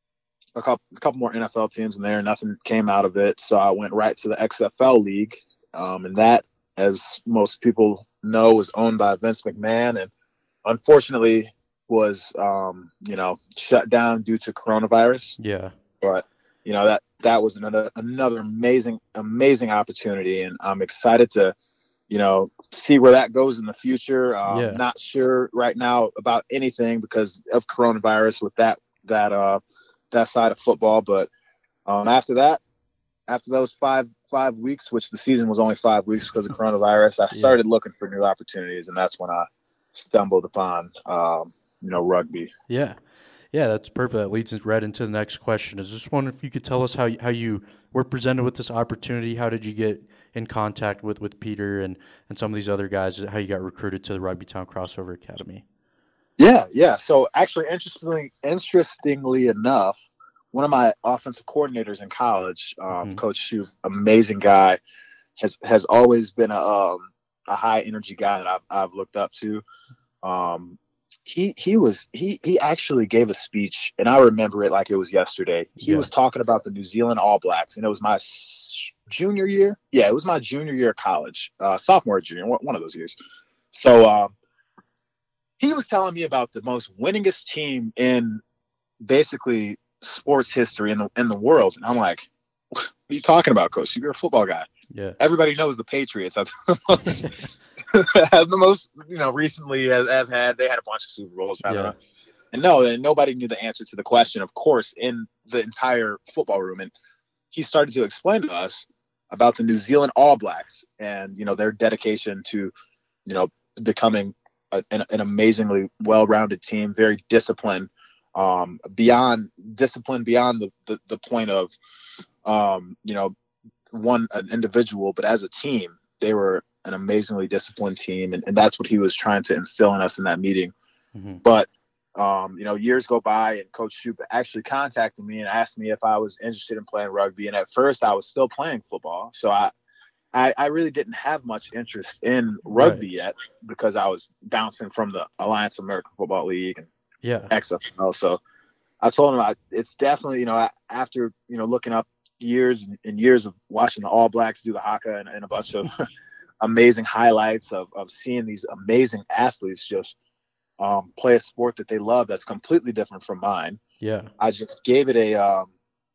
a couple, a couple more N F L teams in there. Nothing came out of it. So I went right to the X F L league. Um, and that, as most people know, was owned by Vince McMahon, and unfortunately was, um, you know, shut down due to coronavirus. Yeah. But, you know, that, that was another, another amazing, amazing opportunity. And I'm excited to, you know, see where that goes in the future. Um, Yeah. Not sure right now about anything because of coronavirus with that, that, uh, that side of football. But, um, after that, after those five, five weeks, which the season was only five weeks because of coronavirus, I started Yeah. looking for new opportunities, and that's when I stumbled upon, um, you know, rugby. Yeah. Yeah, that's perfect. That leads us right into the next question. I was just wondering if you could tell us how, how you were presented with this opportunity. How did you get in contact with, with Peter and, and some of these other guys, how you got recruited to the Rugbytown Crossover Academy? Yeah, yeah. So actually, interestingly, interestingly enough, one of my offensive coordinators in college, um, Mhm. Coach Shu, amazing guy, has has always been a um, a high energy guy that I've I've looked up to. Um, he he was he he actually gave a speech, and I remember it like it was yesterday. He Yeah. was talking about the New Zealand All Blacks, and it was my s- junior year. Yeah, it was my junior year of college, uh, sophomore, junior, one one of those years. So um, he was telling me about the most winningest team in basically sports history in the in the world, and I'm like, "What are you talking about, Coach? You're a football guy. Yeah. Everybody knows the Patriots have the most, have the most you know, recently have, have had. They had a bunch of Super Bowls. Yeah. And no, and nobody knew the answer to the question, of course, in the entire football room. And he started to explain to us about the New Zealand All Blacks and, you know, their dedication to, you know, becoming a, an, an amazingly well-rounded team, very disciplined, um, beyond discipline, beyond the, the, the point of, um, you know, one, an individual, but as a team, they were an amazingly disciplined team. And, and that's what he was trying to instill in us in that meeting. Mhm. But, um, you know, years go by and Coach Shoup actually contacted me and asked me if I was interested in playing rugby. And at first I was still playing football. So I, I, I really didn't have much interest in rugby Right. yet because I was bouncing from the Alliance of American Football League and Yeah. X F L. So I told him I, it's definitely, you know, after, you know, looking up years and years of watching the All Blacks do the haka and, and a bunch of amazing highlights of, of seeing these amazing athletes just um, play a sport that they love that's completely different from mine. Yeah. I just gave it a, um,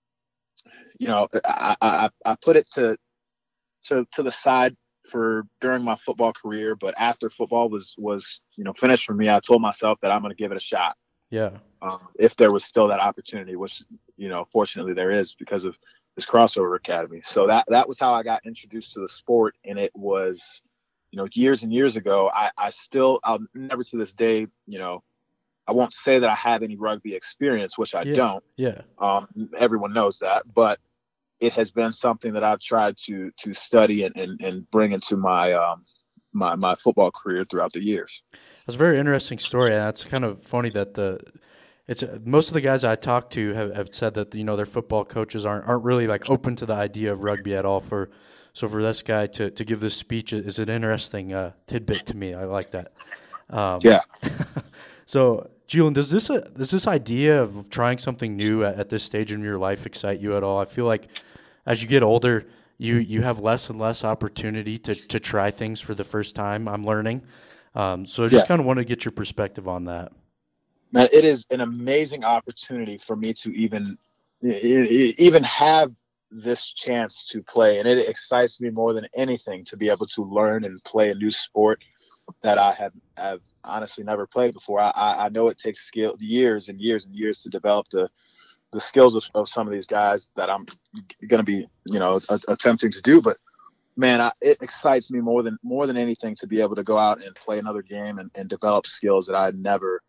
you know, I, I, I put it to, to, to the side for during my football career. But after football was, was, you know, finished for me, I told myself that I'm going to give it a shot. Yeah. Um, if there was still that opportunity, which, you know, fortunately there is because of this crossover academy. So that, that was how I got introduced to the sport. And it was, you know, years and years ago. I, I still, I'll never to this day, you know, I won't say that I have any rugby experience, which I Yeah. don't. Yeah. Um, everyone knows that, but it has been something that I've tried to, to study and, and, and bring into my, um, my, my football career throughout the years. That's a very interesting story, and that's kind of funny that the it's most of the guys I talk to have, have said that, you know, their football coaches aren't aren't really like open to the idea of rugby at all. For so for this guy to, to give this speech is an interesting uh, tidbit to me. I like that. Um, Yeah. So Julian, does this uh, does this idea of trying something new at, at this stage in your life excite you at all? I feel like as you get older, you you have less and less opportunity to to try things for the first time. I'm learning, um, so I just Yeah. kind of want to get your perspective on that. Man, it is an amazing opportunity for me to even e- e- even have this chance to play, and it excites me more than anything to be able to learn and play a new sport that I have have honestly never played before. I, I I know it takes skill years and years and years to develop the the skills of, of some of these guys that I'm going to be, you know, a, attempting to do. But man, I, it excites me more than more than anything to be able to go out and play another game and, and develop skills that I never,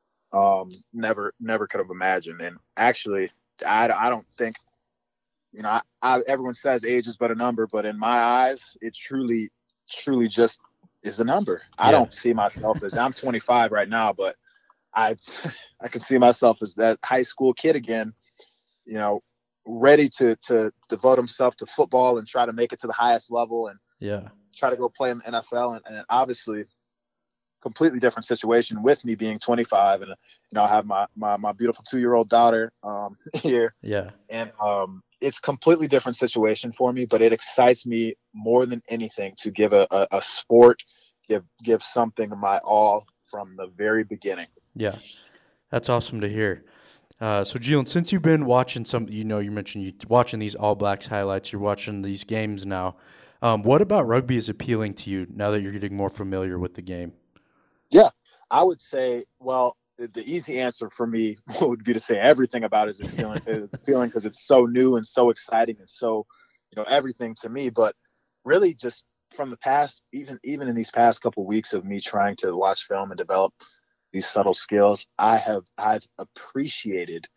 um, never, never could have imagined. And actually, I, I don't think, you know, I, I, everyone says age is but a number, but in my eyes, it truly, truly just is a number. I Yeah. don't see myself as I'm twenty-five right now, but I I can see myself as that high school kid again, you know, ready to to devote himself to football and try to make it to the highest level and Yeah. try to go play in the N F L. And, and obviously, completely different situation with me being twenty-five, and you know, I have my my, my beautiful two year old daughter um, here, Yeah. and um, it's completely different situation for me. But it excites me more than anything to give a, a, a sport, give give something my all from the very beginning. Yeah. That's awesome to hear. Uh, so, Julian, since you've been watching some, you know, you mentioned you watching these All Blacks highlights, you're watching these games now. Um, what about rugby is appealing to you now that you're getting more familiar with the game? Yeah, I would say, well, the, the easy answer for me would be to say everything about it is appealing, is appealing because it's so new and so exciting and so, you know, everything to me. But really, just from the past, even even in these past couple of weeks of me trying to watch film and develop these subtle skills, I have I've appreciated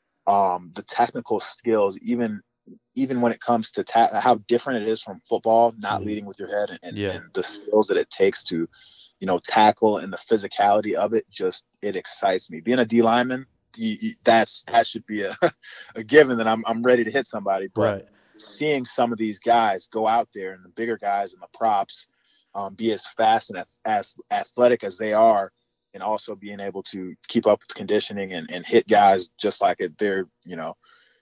um, the technical skills, even even when it comes to ta- how different it is from football, not Mhm. leading with your head, and, and, Yeah. and the skills that it takes to, you know, tackle and the physicality of it. Just it excites me. Being a D lineman, you, you, that's that should be a, a given that I'm I'm ready to hit somebody. But Right. seeing some of these guys go out there and the bigger guys and the props um, be as fast and as, as athletic as they are, and also being able to keep up with conditioning and, and hit guys just like it, they're, you know,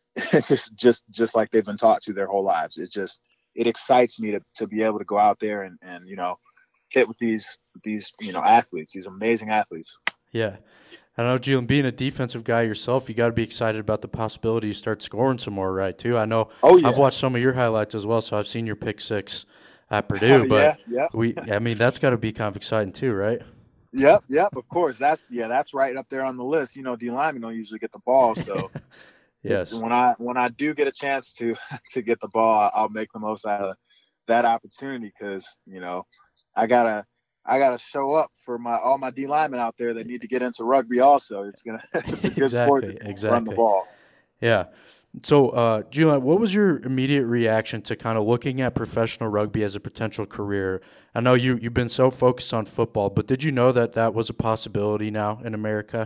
just just just like they've been taught to their whole lives. It just it excites me to, to be able to go out there and, and you know, hit with these these you know athletes, these amazing athletes. Yeah. I know, Julian, being a defensive guy yourself, you got to be excited about the possibility you start scoring some more, right, too? I know Oh yeah, I've watched some of your highlights as well, so I've seen your pick six at Purdue, but yeah, yeah, we, I mean, that's got to be kind of exciting too, right? yep, yep. Of course, that's yeah, that's right up there on the list. You know, D linemen don't usually get the ball, so Yes. when I when I do get a chance to to get the ball, I'll make the most out of that opportunity because you know I gotta I gotta show up for my all my D linemen out there that need to get into rugby. Also, it's gonna it's a good sport Exactly, to run the exactly. ball. Yeah. So, uh, Julian, what was your immediate reaction to kind of looking at professional rugby as a potential career? I know you, you've been so focused on football, but did you know that that was a possibility now in America?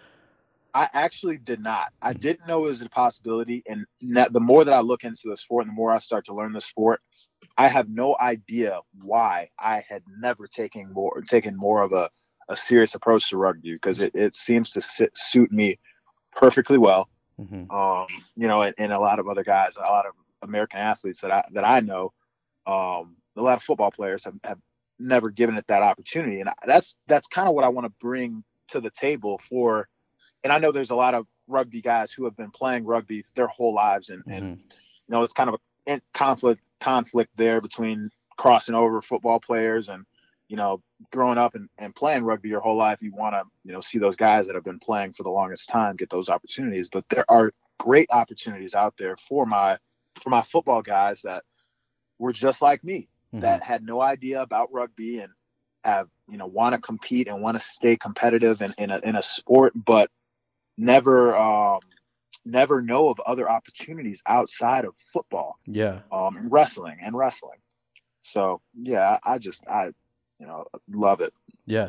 I actually did not. I didn't know it was a possibility, and the more that I look into the sport, and the more I start to learn the sport, I have no idea why I had never taken more taken more of a, a serious approach to rugby because it, it seems to sit, suit me perfectly well. Mm-hmm. Um, you know, and, and a lot of other guys, a lot of American athletes that I that I know, um, a lot of football players have, have never given it that opportunity, and that's that's kind of what I want to bring to the table for. And I know there's a lot of rugby guys who have been playing rugby their whole lives, and, and Mm-hmm. you know, it's kind of a conflict conflict there between crossing over football players and, you know, growing up and, and playing rugby your whole life. You want to, you know, see those guys that have been playing for the longest time get those opportunities. But there are great opportunities out there for my for my football guys that were just like me, Mm-hmm. that had no idea about rugby and have, you know, want to compete and want to stay competitive in, in a in a sport, but never um, never know of other opportunities outside of football, Yeah. um, and wrestling and wrestling. So yeah, I just I you know love it. Yeah.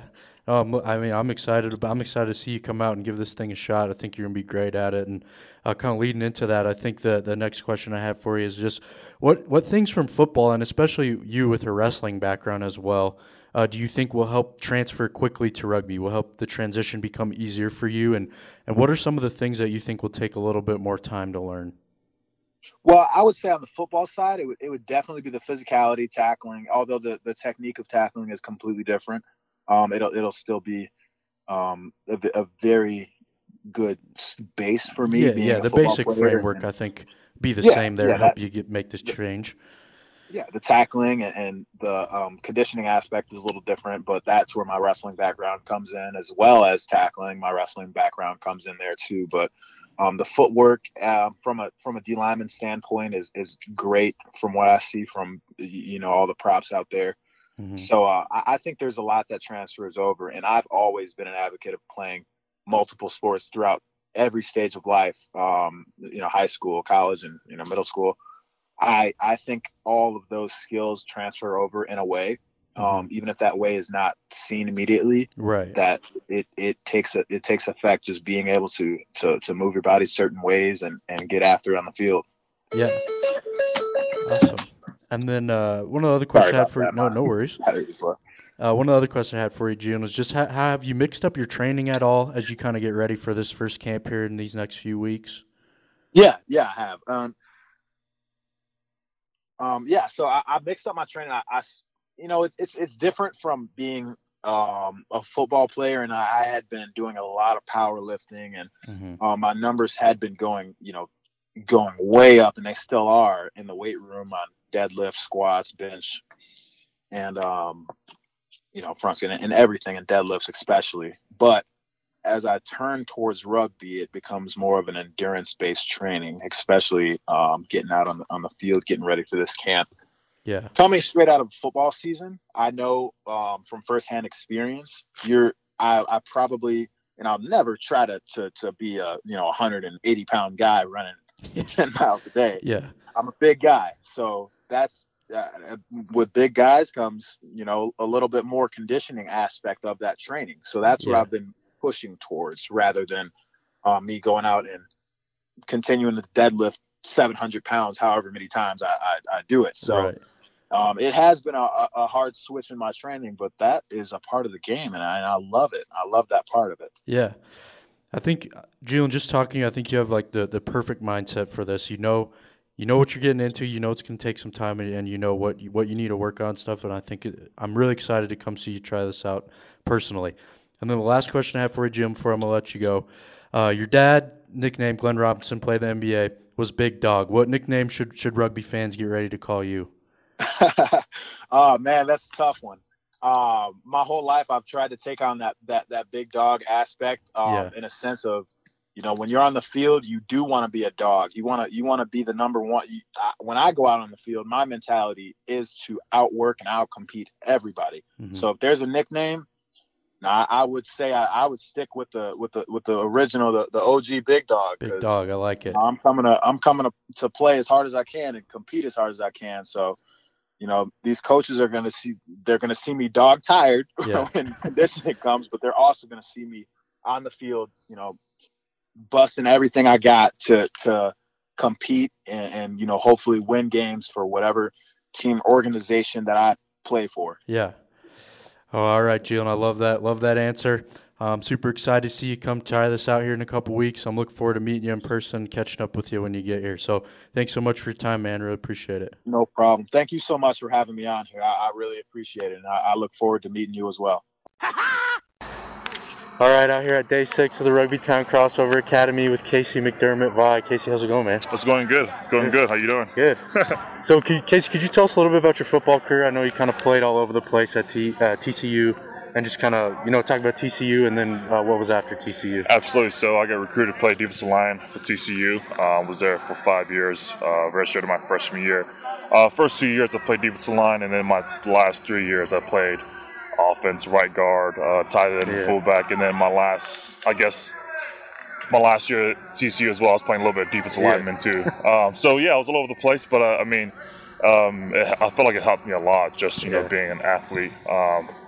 Um, I mean, I'm excited. About, I'm excited to see you come out and give this thing a shot. I think you're gonna be great at it. And uh, kind of leading into that, I think the the next question I have for you is just what what things from football, and especially you with a wrestling background as well, uh, do you think will help transfer quickly to rugby? Will help the transition become easier for you? And and what are some of the things that you think will take a little bit more time to learn? Well, I would say on the football side, it would it would definitely be the physicality, tackling. Although the, the technique of tackling is completely different, um, it'll it'll still be um, a, a very good base for me. Yeah, being yeah. a The football basic player. framework, And I think, be the yeah, same there. yeah, help that, you get make this change. Yeah, the tackling and, and the um, conditioning aspect is a little different, but that's where my wrestling background comes in, as well as tackling. My wrestling background comes in there too. But um, the footwork uh, from a from a D lineman standpoint is is great from what I see from you know all the props out there. Mm-hmm. So uh, I, I think there's a lot that transfers over, and I've always been an advocate of playing multiple sports throughout every stage of life. Um, you know, high school, college, and you know middle school. I I think all of those skills transfer over in a way, um, Mm-hmm. even if that way is not seen immediately. Right. That it, it takes a, it takes effect just being able to to to move your body certain ways and, and get after it on the field. Yeah. Awesome. And then uh, one of the other questions I had for you, no, no worries. Uh, one of the other questions I had for you, June, was just how, how have you mixed up your training at all as you kind of get ready for this first camp period in these next few weeks? Yeah, yeah, I have. Um, um, yeah, so I, I mixed up my training. I, I you know, it, it's it's different from being um, a football player, and I, I had been doing a lot of powerlifting, and Mm-hmm. um, my numbers had been going, you know, going way up, and they still are in the weight room on deadlift, squats, bench, and um, you know, front squat and everything, and deadlifts especially. But as I turn towards rugby, it becomes more of an endurance-based training, especially um, getting out on the on the field, getting ready for this camp. Yeah. Coming straight out of football season, I know um, from firsthand experience, you're I, I probably and I'll never try to to to be a you know one hundred eighty pound guy running ten miles a day. Yeah. I'm a big guy, so that's uh, with big guys comes you know a little bit more conditioning aspect of that training. So that's what Yeah. I've been pushing towards, rather than uh, me going out and continuing to deadlift seven hundred pounds, however many times I, I, I do it. So Right. um, it has been a, a hard switch in my training, but that is a part of the game, and I, and I love it. I love that part of it. Yeah. I think, Jalen, just talking, I think you have like the, the perfect mindset for this. You know, you know what you're getting into. You know it's going to take some time, and, and you know what you, what you need to work on stuff. And I think it, I'm really excited to come see you try this out personally. And then the last question I have for you, Jim, before I'm going to let you go. Uh, your dad, nickname Glenn Robinson, played the N B A, was Big Dog. What nickname should should rugby fans get ready to call you? Oh, man, that's a tough one. Uh, my whole life I've tried to take on that that that big dog aspect um, Yeah. in a sense of, you know, when you're on the field, you do want to be a dog. You want to you want to be the number one. You, I, when I go out on the field, my mentality is to outwork and outcompete everybody. Mm-hmm. So if there's a nickname, I, I would say I, I would stick with the with the with the original, the, the O G Big Dog. Big Dog, I like it. I'm coming to I'm coming to, to play as hard as I can and compete as hard as I can. So, you know, these coaches are gonna see they're gonna see me dog tired Yeah. when conditioning comes, but they're also gonna see me on the field, you know, busting everything I got to to compete and, and you know hopefully win games for whatever team organization that I play for. Yeah. Oh, all right, Jalen. I love that. Love that answer. I'm super excited to see you come try this out here in a couple weeks. I'm looking forward to meeting you in person, catching up with you when you get here. So thanks so much for your time, man. Really appreciate it. No problem. Thank you so much for having me on here. I, I really appreciate it, and I, I look forward to meeting you as well. All right, out here at day six of the Rugby Town Crossover Academy with Casey McDermott. Vi, Casey, how's it going, man? It's going good. Going good. How you doing? Good. So, could, Casey, could you tell us a little bit about your football career? I know you kind of played all over the place at T, uh, T C U, and just kind of, you know, talk about T C U and then uh, what was after T C U. Absolutely. So I got recruited to play defensive line for T C U. Uh, was there for five years. Uh, registered my freshman year. Uh, first two years I played defensive line, and then my last three years I played offense, right guard, uh, tight end, Yeah. fullback, and then my last, I guess, my last year at T C U as well, I was playing a little bit of defensive Yeah. lineman too. Um, so yeah, I was all over the place, but uh, I mean, um, it, I felt like it helped me a lot, just you Yeah. know, being an athlete. Um,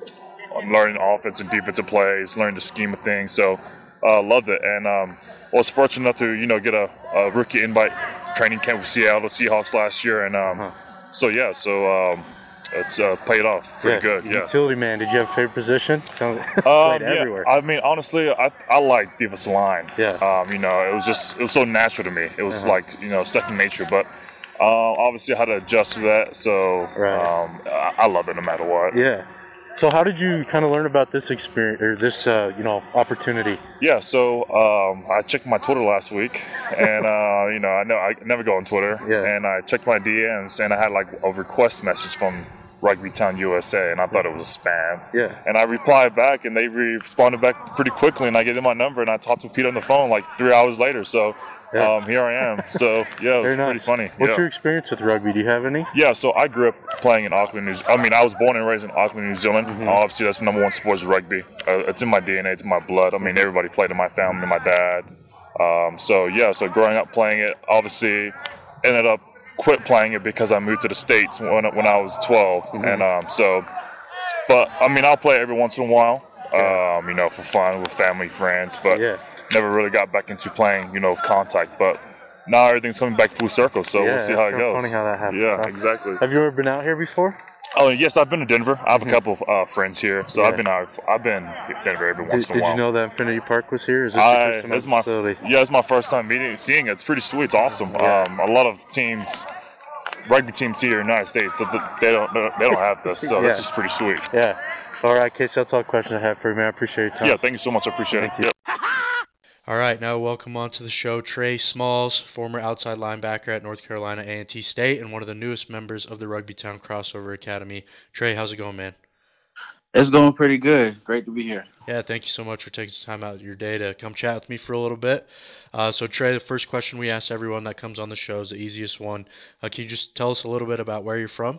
I'm learning offense and defensive plays, learning the scheme of things. So uh, loved it, and um, was fortunate enough to you know get a, a rookie invite training camp with Seattle Seahawks last year, and um, uh-huh. so yeah, so um, it's uh, paid off pretty yeah. good. Yeah, utility man. Did you have a favorite position? Sound um, played yeah. everywhere. I mean, honestly, I I like defensive line. Yeah. Um, you know, it was just it was so natural to me. It was uh-huh. like you know second nature, but. Uh, obviously, I had to adjust to that, so right. um, I, I love it no matter what. Yeah. So, how did you kind of learn about this experience or this, uh, you know, opportunity? Yeah. So, um, I checked my Twitter last week, and uh, you know, I know I never go on Twitter, yeah. and I checked my D Ms, and I had like a request message from Rugby Town U S A, and I thought it was a spam. Yeah. And I replied back, and they responded back pretty quickly, and I gave them my number, and I talked to Pete on the phone like three hours later. So. Yeah. Um, here I am. So, yeah, it was nice. pretty funny. What's yeah. your experience with rugby? Do you have any? Yeah, so I grew up playing in Auckland, New Zealand. I mean, I was born and raised in Auckland, New Zealand. Mm-hmm. Obviously, that's the number one sport is rugby. Uh, it's in my D N A. It's in my blood. I mean, everybody played in my family, my dad. Um, so, yeah, so growing up playing it, obviously ended up quit playing it because I moved to the States when, when I was twelve. Mm-hmm. And um, so, but, I mean, I'll play every once in a while, um, you know, for fun with family, friends. But yeah. never really got back into playing, you know, contact. But now everything's coming back full circle, so yeah, we'll see how it goes. Funny how that happens. Yeah, huh? exactly. Have you ever been out here before? Oh yes, I've been to Denver. I have a couple of uh, friends here, so yeah. I've been out. I've been to Denver every once did, in a while. Did you know that Infinity Park was here? Is this I, your first time it's at my the facility? Yeah, it's my first time meeting, seeing it. It's pretty sweet. It's awesome. Yeah. Um, a lot of teams, rugby teams here in the United States, they don't they don't have this, so yeah. this is pretty sweet. Yeah. All right, Casey, that's all the questions I have for you, man. I appreciate your time. Yeah, thank you so much. I appreciate thank it. You. Yeah. All right, now welcome on to the show Trey Smalls, former outside linebacker at North Carolina A and T State and one of the newest members of the Rugby Town Crossover Academy. Trey, how's it going, man? It's going pretty good. Great to be here. Yeah, thank you so much for taking some time out of your day to come chat with me for a little bit. Uh, so, Trey, the first question we ask everyone that comes on the show is the easiest one. Uh, can you just tell us a little bit about where you're from?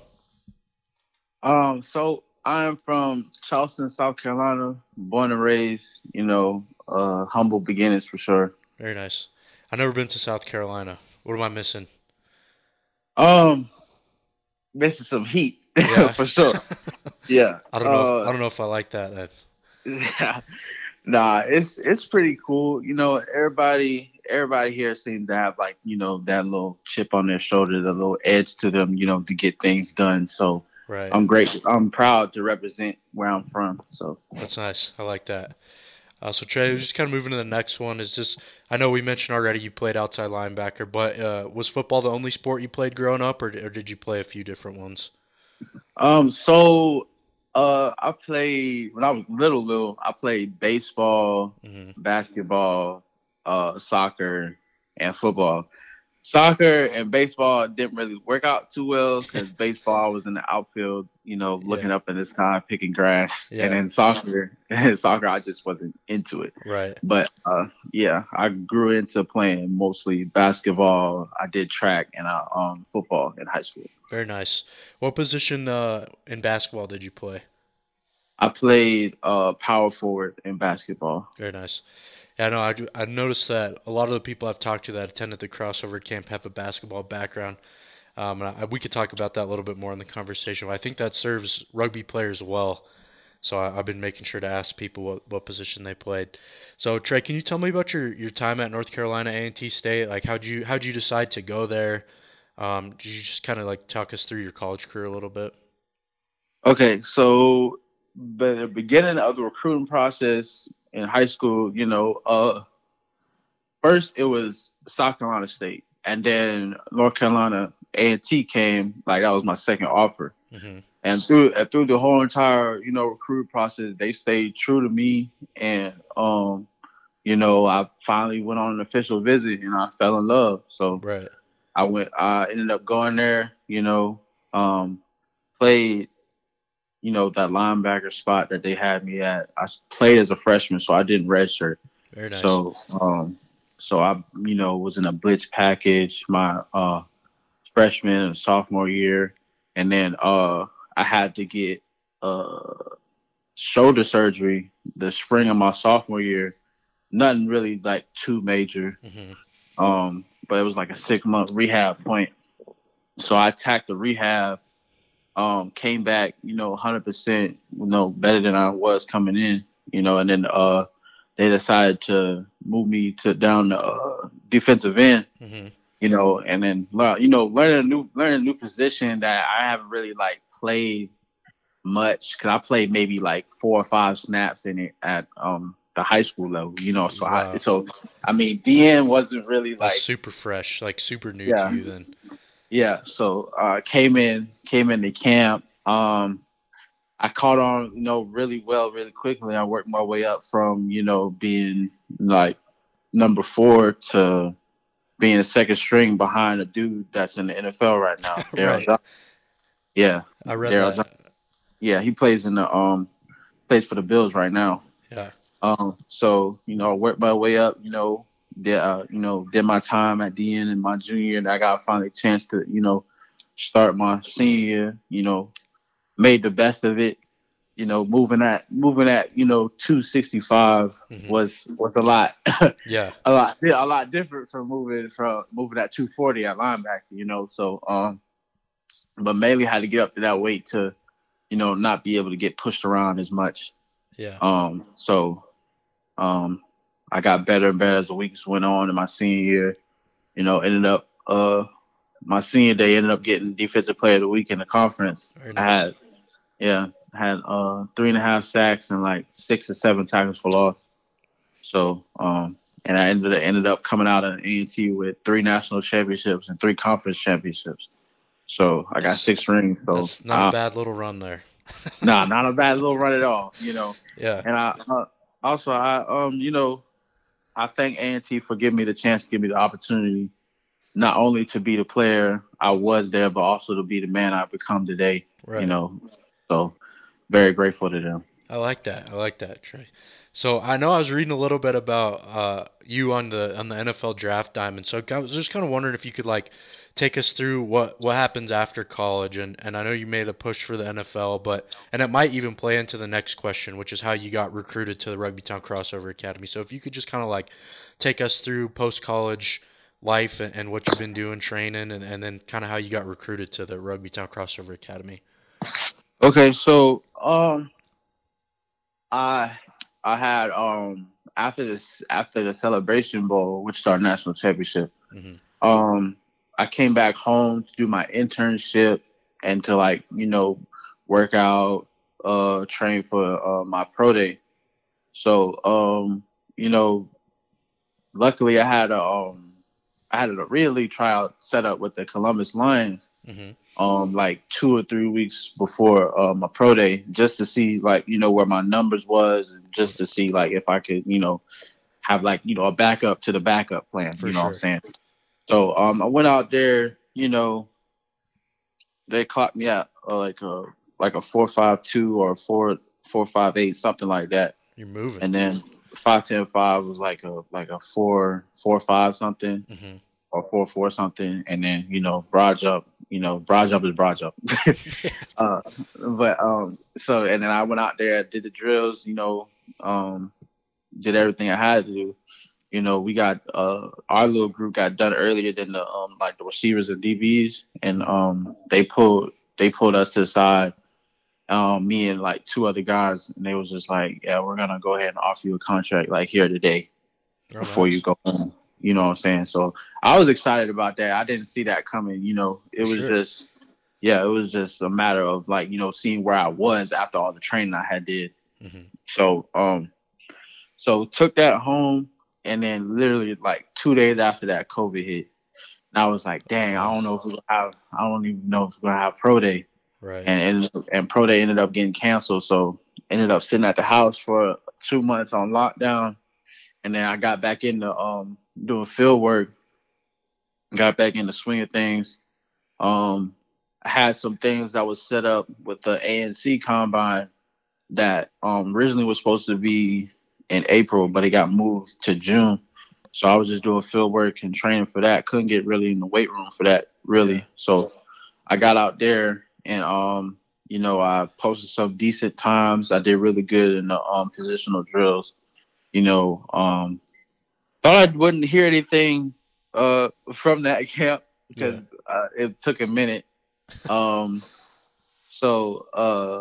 Um, so I'm from Charleston, South Carolina, born and raised, you know, uh, humble beginnings for sure. Very nice. I've never been to South Carolina. What am I missing? Um, missing some heat yeah. for sure. Yeah. I don't know. Uh, if, I don't know if I like that. Then. Yeah. Nah, it's it's pretty cool. You know, everybody everybody here seems to have like, you know, that little chip on their shoulder, the little edge to them, you know, to get things done. So right. I'm great. I'm proud to represent where I'm from. So that's nice. I like that. Uh, so, Trey, just kind of moving to the next one is just, I know we mentioned already you played outside linebacker, but uh, was football the only sport you played growing up, or, or did you play a few different ones? Um, so uh, I played, when I was little, little, I played baseball, mm-hmm. basketball, uh, soccer, and football. Soccer and baseball didn't really work out too well because baseball I was in the outfield, you know, looking yeah. up in the sky, picking grass. Yeah. And then soccer, soccer, I just wasn't into it. Right. But, uh, yeah, I grew into playing mostly basketball. I did track and uh, um, football in high school. Very nice. What position uh, in basketball did you play? I played uh, power forward in basketball. Very nice. Yeah, no, I do, I noticed that a lot of the people I've talked to that attended the crossover camp have a basketball background. Um, and I, we could talk about that a little bit more in the conversation. But I think that serves rugby players well. So I, I've been making sure to ask people what, what position they played. So Trey, can you tell me about your, your time at North Carolina A and T State? Like, how'd you how'd you decide to go there? Um, did you just kind of like talk us through your college career a little bit? Okay, so the beginning of the recruiting process in high school, you know, uh, first it was South Carolina State, and then North Carolina A and T came. Like that was my second offer, mm-hmm. and through uh, through the whole entire, you know, recruit process, they stayed true to me, and um, you know, I finally went on an official visit, and I fell in love. So right. I went. I ended up going there. You know, um, played. You know, that linebacker spot that they had me at. I played as a freshman, so I didn't redshirt. Very nice. So, um, so I, you know, was in a blitz package my uh, freshman and sophomore year, and then uh, I had to get uh, shoulder surgery the spring of my sophomore year. Nothing really like too major, mm-hmm. um, but it was like a six month rehab point. So I attacked the rehab. Um, came back, you know, one hundred percent, you know, better than I was coming in, you know, and then uh, they decided to move me to down the uh, defensive end, Mm-hmm. you know, and then learn, you know, learning a new learning a new position that I haven't really like played much because I played maybe like four or five snaps in it at um the high school level, you know. So Wow. I so I mean D N wasn't really That's like super fresh, like super new yeah to you then. yeah. So uh, came in came into camp. Um, I caught on, you know, really well, really quickly. I worked my way up from you know being like number four to being a second string behind a dude that's in the N F L right now, Daryl Right. Johnson. Yeah, I read Daryl that. Johnson. Yeah, he plays in the um plays for the Bills right now. Yeah. Um, so you know, I worked my way up. You know, did uh, you know did my time at D N in my junior year, and I got finally a chance to you know start my senior year. You know, made the best of it. You know, moving at moving at you know two sixty-five Mhm. was was a lot, Yeah. a lot yeah, a lot different from moving from moving at two forty at linebacker. You know, so um, but mainly had to get up to that weight to you know not be able to get pushed around as much. Yeah. Um, so um, I got better and better as the weeks went on in my senior year. You know, ended up uh my senior day ended up getting defensive player of the week in the conference. Very I nice. had yeah, I had uh three and a half sacks and like six or seven tackles for loss. So um and I ended ended up coming out of A and T with three national championships and three conference championships. So I got That's- six rings. So That's not uh, a bad little run there. nah, not a bad little run at all. You know, Yeah. and I uh, also I um you know I thank A and T for giving me the chance to give me the opportunity not only to be the player I was there, but also to be the man I've become today. Right. You know, so very grateful to them. I like that. I like that, Trey. So I know I was reading a little bit about uh, you on the on the N F L draft diamond. So I was just kind of wondering if you could like take us through what, what happens after college. And, and I know you made a push for the N F L, but and it might even play into the next question, which is how you got recruited to the Rugbytown Crossover Academy. So if you could just kind of like take us through post college life and, and what you've been doing training, and, and then kind of how you got recruited to the Rugbytown Crossover Academy. Okay, so um, I I had um after this after the Celebration Bowl, which is our national championship, Mm-hmm. um, I came back home to do my internship and to like you know work out, uh, train for uh, my pro day. So um, you know, luckily I had a um I had a real league tryout set up with the Columbus Lions. Mm-hmm. Um, like two or three weeks before uh, my pro day, just to see like you know where my numbers was, and just to see like if I could you know have like you know a backup to the backup plan. For you know sure. what I'm saying? So um, I went out there. You know, they clocked me at uh, like a like a four five two or a four four five eight, something like that. You're moving. And then five ten five was like a like a four four five something. Mm-hmm. Or four four something, and then you know broad jump. You know broad jump is broad jump. uh, but um, so and then I went out there, did the drills. You know, um, did everything I had to do. You know, we got uh our little group got done earlier than the um like the receivers and D Bs, and um they pulled they pulled us to the side. Um, me and like two other guys, and they was just like, yeah, we're gonna go ahead and offer you a contract like here today Oh, before nice. you go home. You know what I'm saying? So I was excited about that. I didn't see that coming. You know, it was Sure. just, yeah, it was just a matter of like, you know, seeing where I was after all the training I had did. Mm-hmm. So, um, so took that home, and then literally like two days after that, COVID hit. And I was like, dang, I don't know if we're gonna have, I don't even know if we're gonna have pro day. Right. And and, and pro day ended up getting canceled. So ended up sitting at the house for two months on lockdown. And then I got back into um, doing field work, got back in the swing of things. Um, I had some things that was set up with the A N C combine that um, originally was supposed to be in April, but it got moved to June. So I was just doing field work and training for that. Couldn't get really in the weight room for that, really. Yeah. So I got out there and, um, you know, I posted some decent times. I did really good in the um, positional drills. You know, um, thought I wouldn't hear anything uh, from that camp because uh, it took a minute. Um, So, uh,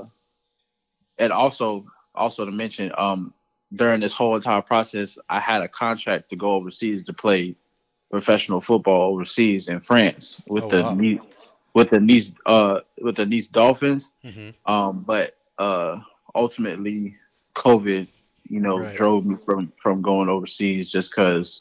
and also, also to mention, um, during this whole entire process, I had a contract to go overseas to play professional football overseas in France with Oh the wow. Nice, with the Nice uh with the Nice Dolphins. Mm-hmm. Um, but uh, ultimately, COVID, you know, Right. drove me from from going overseas just because,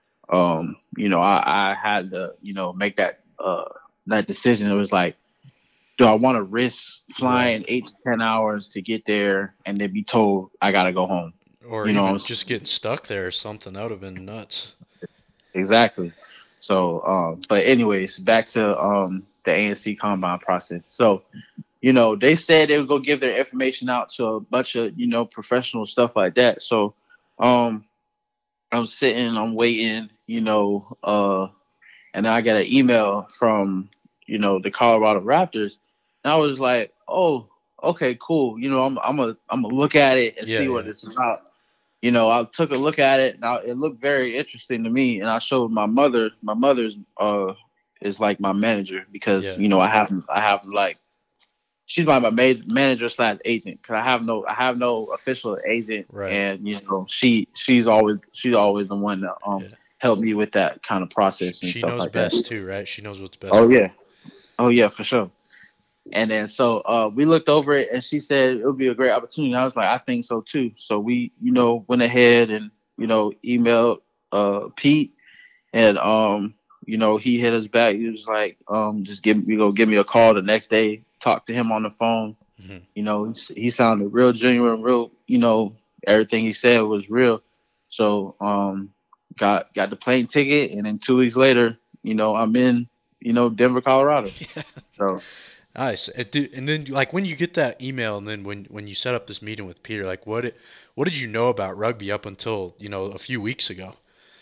um, you know, I, I had to, you know, make that uh that decision. It was like, do I want to risk flying Right. eight to ten hours to get there and then be told I gotta go home? Or You know what I'm even saying? just getting stuck there or something. That would have been nuts. Exactly. So, um, but anyways, back to um the A N C combine process. So, you know, they said they would go give their information out to a bunch of, you know, professional stuff like that. So, um, I'm sitting, I'm waiting, you know, uh, and I got an email from, you know, the Colorado Raptors, and I was like, oh, okay, cool. You know, I'm, I'm a, I'm gonna look at it and Yeah, see what yeah. it's about. You know, I took a look at it, and I, it looked very interesting to me. And I showed my mother. My mother's uh is like my manager because Yeah. you know I have I have like she's my my ma- manager slash agent because I have no I have no official agent, Right. and you know she she's always she's always the one that um Yeah. helped me with that kind of Sh- process and She stuff knows like that. best too, right? She knows what's best Oh for you. yeah, oh yeah, for sure. And then so uh, we looked over it, and she said it would be a great opportunity. I was like, I think so too. So we, you know, went ahead and you know emailed uh, Pete, and um, you know he hit us back. He was like, um, just give me go give me a call the next day. Talk to him on the phone. Hmm. You know, he, he sounded real genuine, real. You know, everything he said was real. So um, got got the plane ticket, and then two weeks later, you know, I'm in, you know, Denver, Colorado. Yeah. So. Nice. And, did, and then, like, when you get that email, and then when when you set up this meeting with Peter, like, what it, what did you know about rugby up until you know a few weeks ago?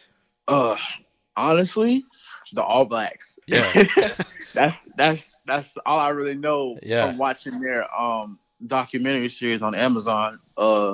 Uh, honestly, the All Blacks. Yeah. that's that's that's all I really know Yeah. from watching their um documentary series on Amazon. Uh,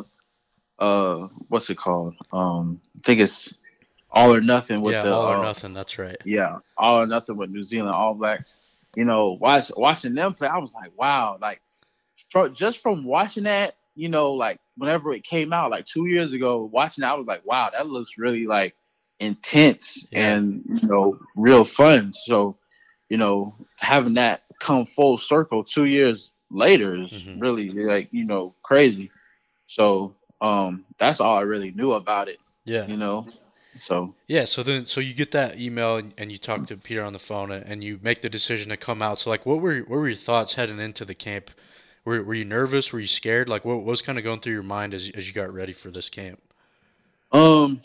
uh, what's it called? Um, I think it's All or Nothing with Yeah. the All or uh, nothing. That's right. yeah, All or Nothing with New Zealand All Blacks. You know, watch watching them play, I was like, wow, like from just from watching that, you know, like whenever it came out, like two years ago, watching that, I was like, wow, that looks really like intense Yeah. and you know, real fun. So, you know, having that come full circle two years later is Hmm. really like, you know, crazy. So, um, that's all I really knew about it, Yeah. you know. So Yeah. So then, so you get that email, and, and you talk to Peter on the phone, and, and you make the decision to come out. So, like, what were what were your thoughts heading into the camp? Were Were you nervous? Were you scared? Like, what, what was kind of going through your mind as as you got ready for this camp? um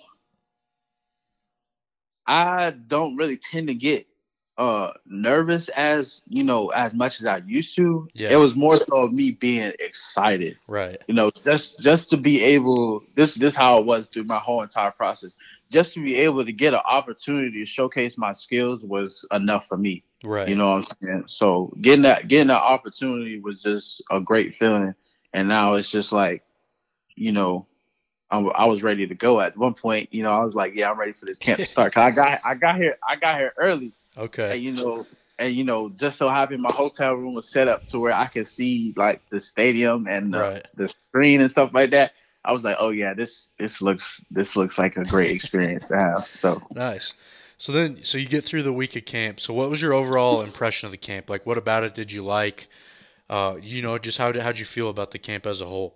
I don't really tend to get uh nervous as you know as much as I used to. It Yeah. was more so of me being excited. Right. You know, just just to be able this this how it was through my whole entire process. Just to be able to get an opportunity to showcase my skills was enough for me. You Right. know what I'm saying? So getting that getting that opportunity was just a great feeling. And now it's just like, you know, I, I was ready to go at one point. You know, I was like, yeah, I'm ready for this camp to start. Cause I got I got here I got here early, Okay. and you know, and you know, just so happened my hotel room was set up to where I could see like the stadium and the, Right. the screen and stuff like that. I was like, oh yeah, this this looks this looks like a great experience to have. So Nice. So then, so you get through the week of camp. So what was your overall impression of the camp? Like, what about it did you like? Uh, you know, just how did how'd you feel about the camp as a whole?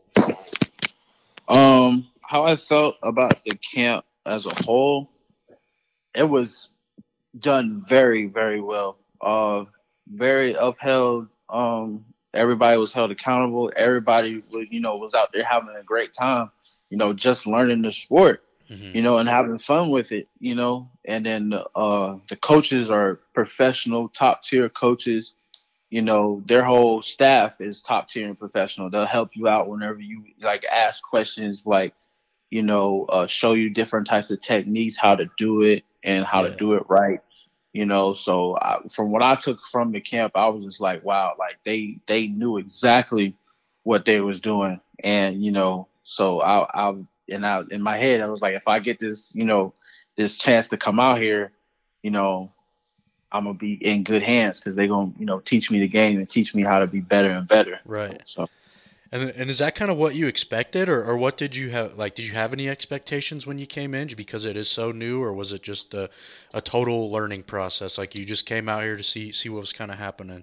um, how I felt about the camp as a whole, it was done very, very well. Uh, very upheld. Um, everybody was held accountable. Everybody, was, you know, was out there having a great time. You know, just learning the sport. Hmm. You know, and having fun with it. You know, and then uh, the coaches are professional, top tier coaches. You know, their whole staff is top tier and professional. They'll help you out whenever you like ask questions, like you know, uh, show you different types of techniques, how to do it and how to Yeah. do it right. You know, so I, from what I took from the camp, I was just like, wow, like they they knew exactly what they was doing, and you know, so I I and I in my head I was like, if I get this, you know, this chance to come out here, you know, I'm gonna be in good hands because they're gonna, you know, teach me the game and teach me how to be better and better. Right. So, And and is that kind of what you expected, or, or what did you have? Like, did you have any expectations when you came in because it is so new, or was it just a, a total learning process? Like you just came out here to see see what was kind of happening.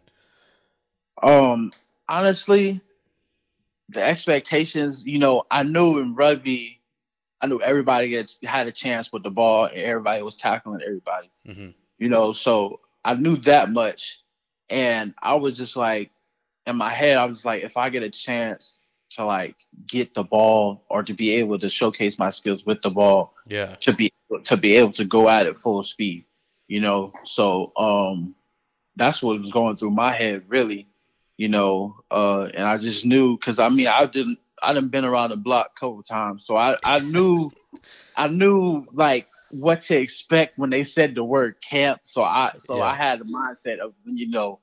um, honestly, the expectations, you know, I knew in rugby, I knew everybody gets, had a chance with the ball, and everybody was tackling everybody. Mm-hmm. You know, so I knew that much, and I was just like, in my head, I was like, if I get a chance to like get the ball or to be able to showcase my skills with the ball, Yeah, to be to be able to go at it full speed, you know. So um, that's what was going through my head, really, you know. Uh, and I just knew because I mean, I didn't, I done been around the block a couple times, so I I knew, I knew like what to expect when they said the word camp. So I so Yeah. I had the mindset of, you know,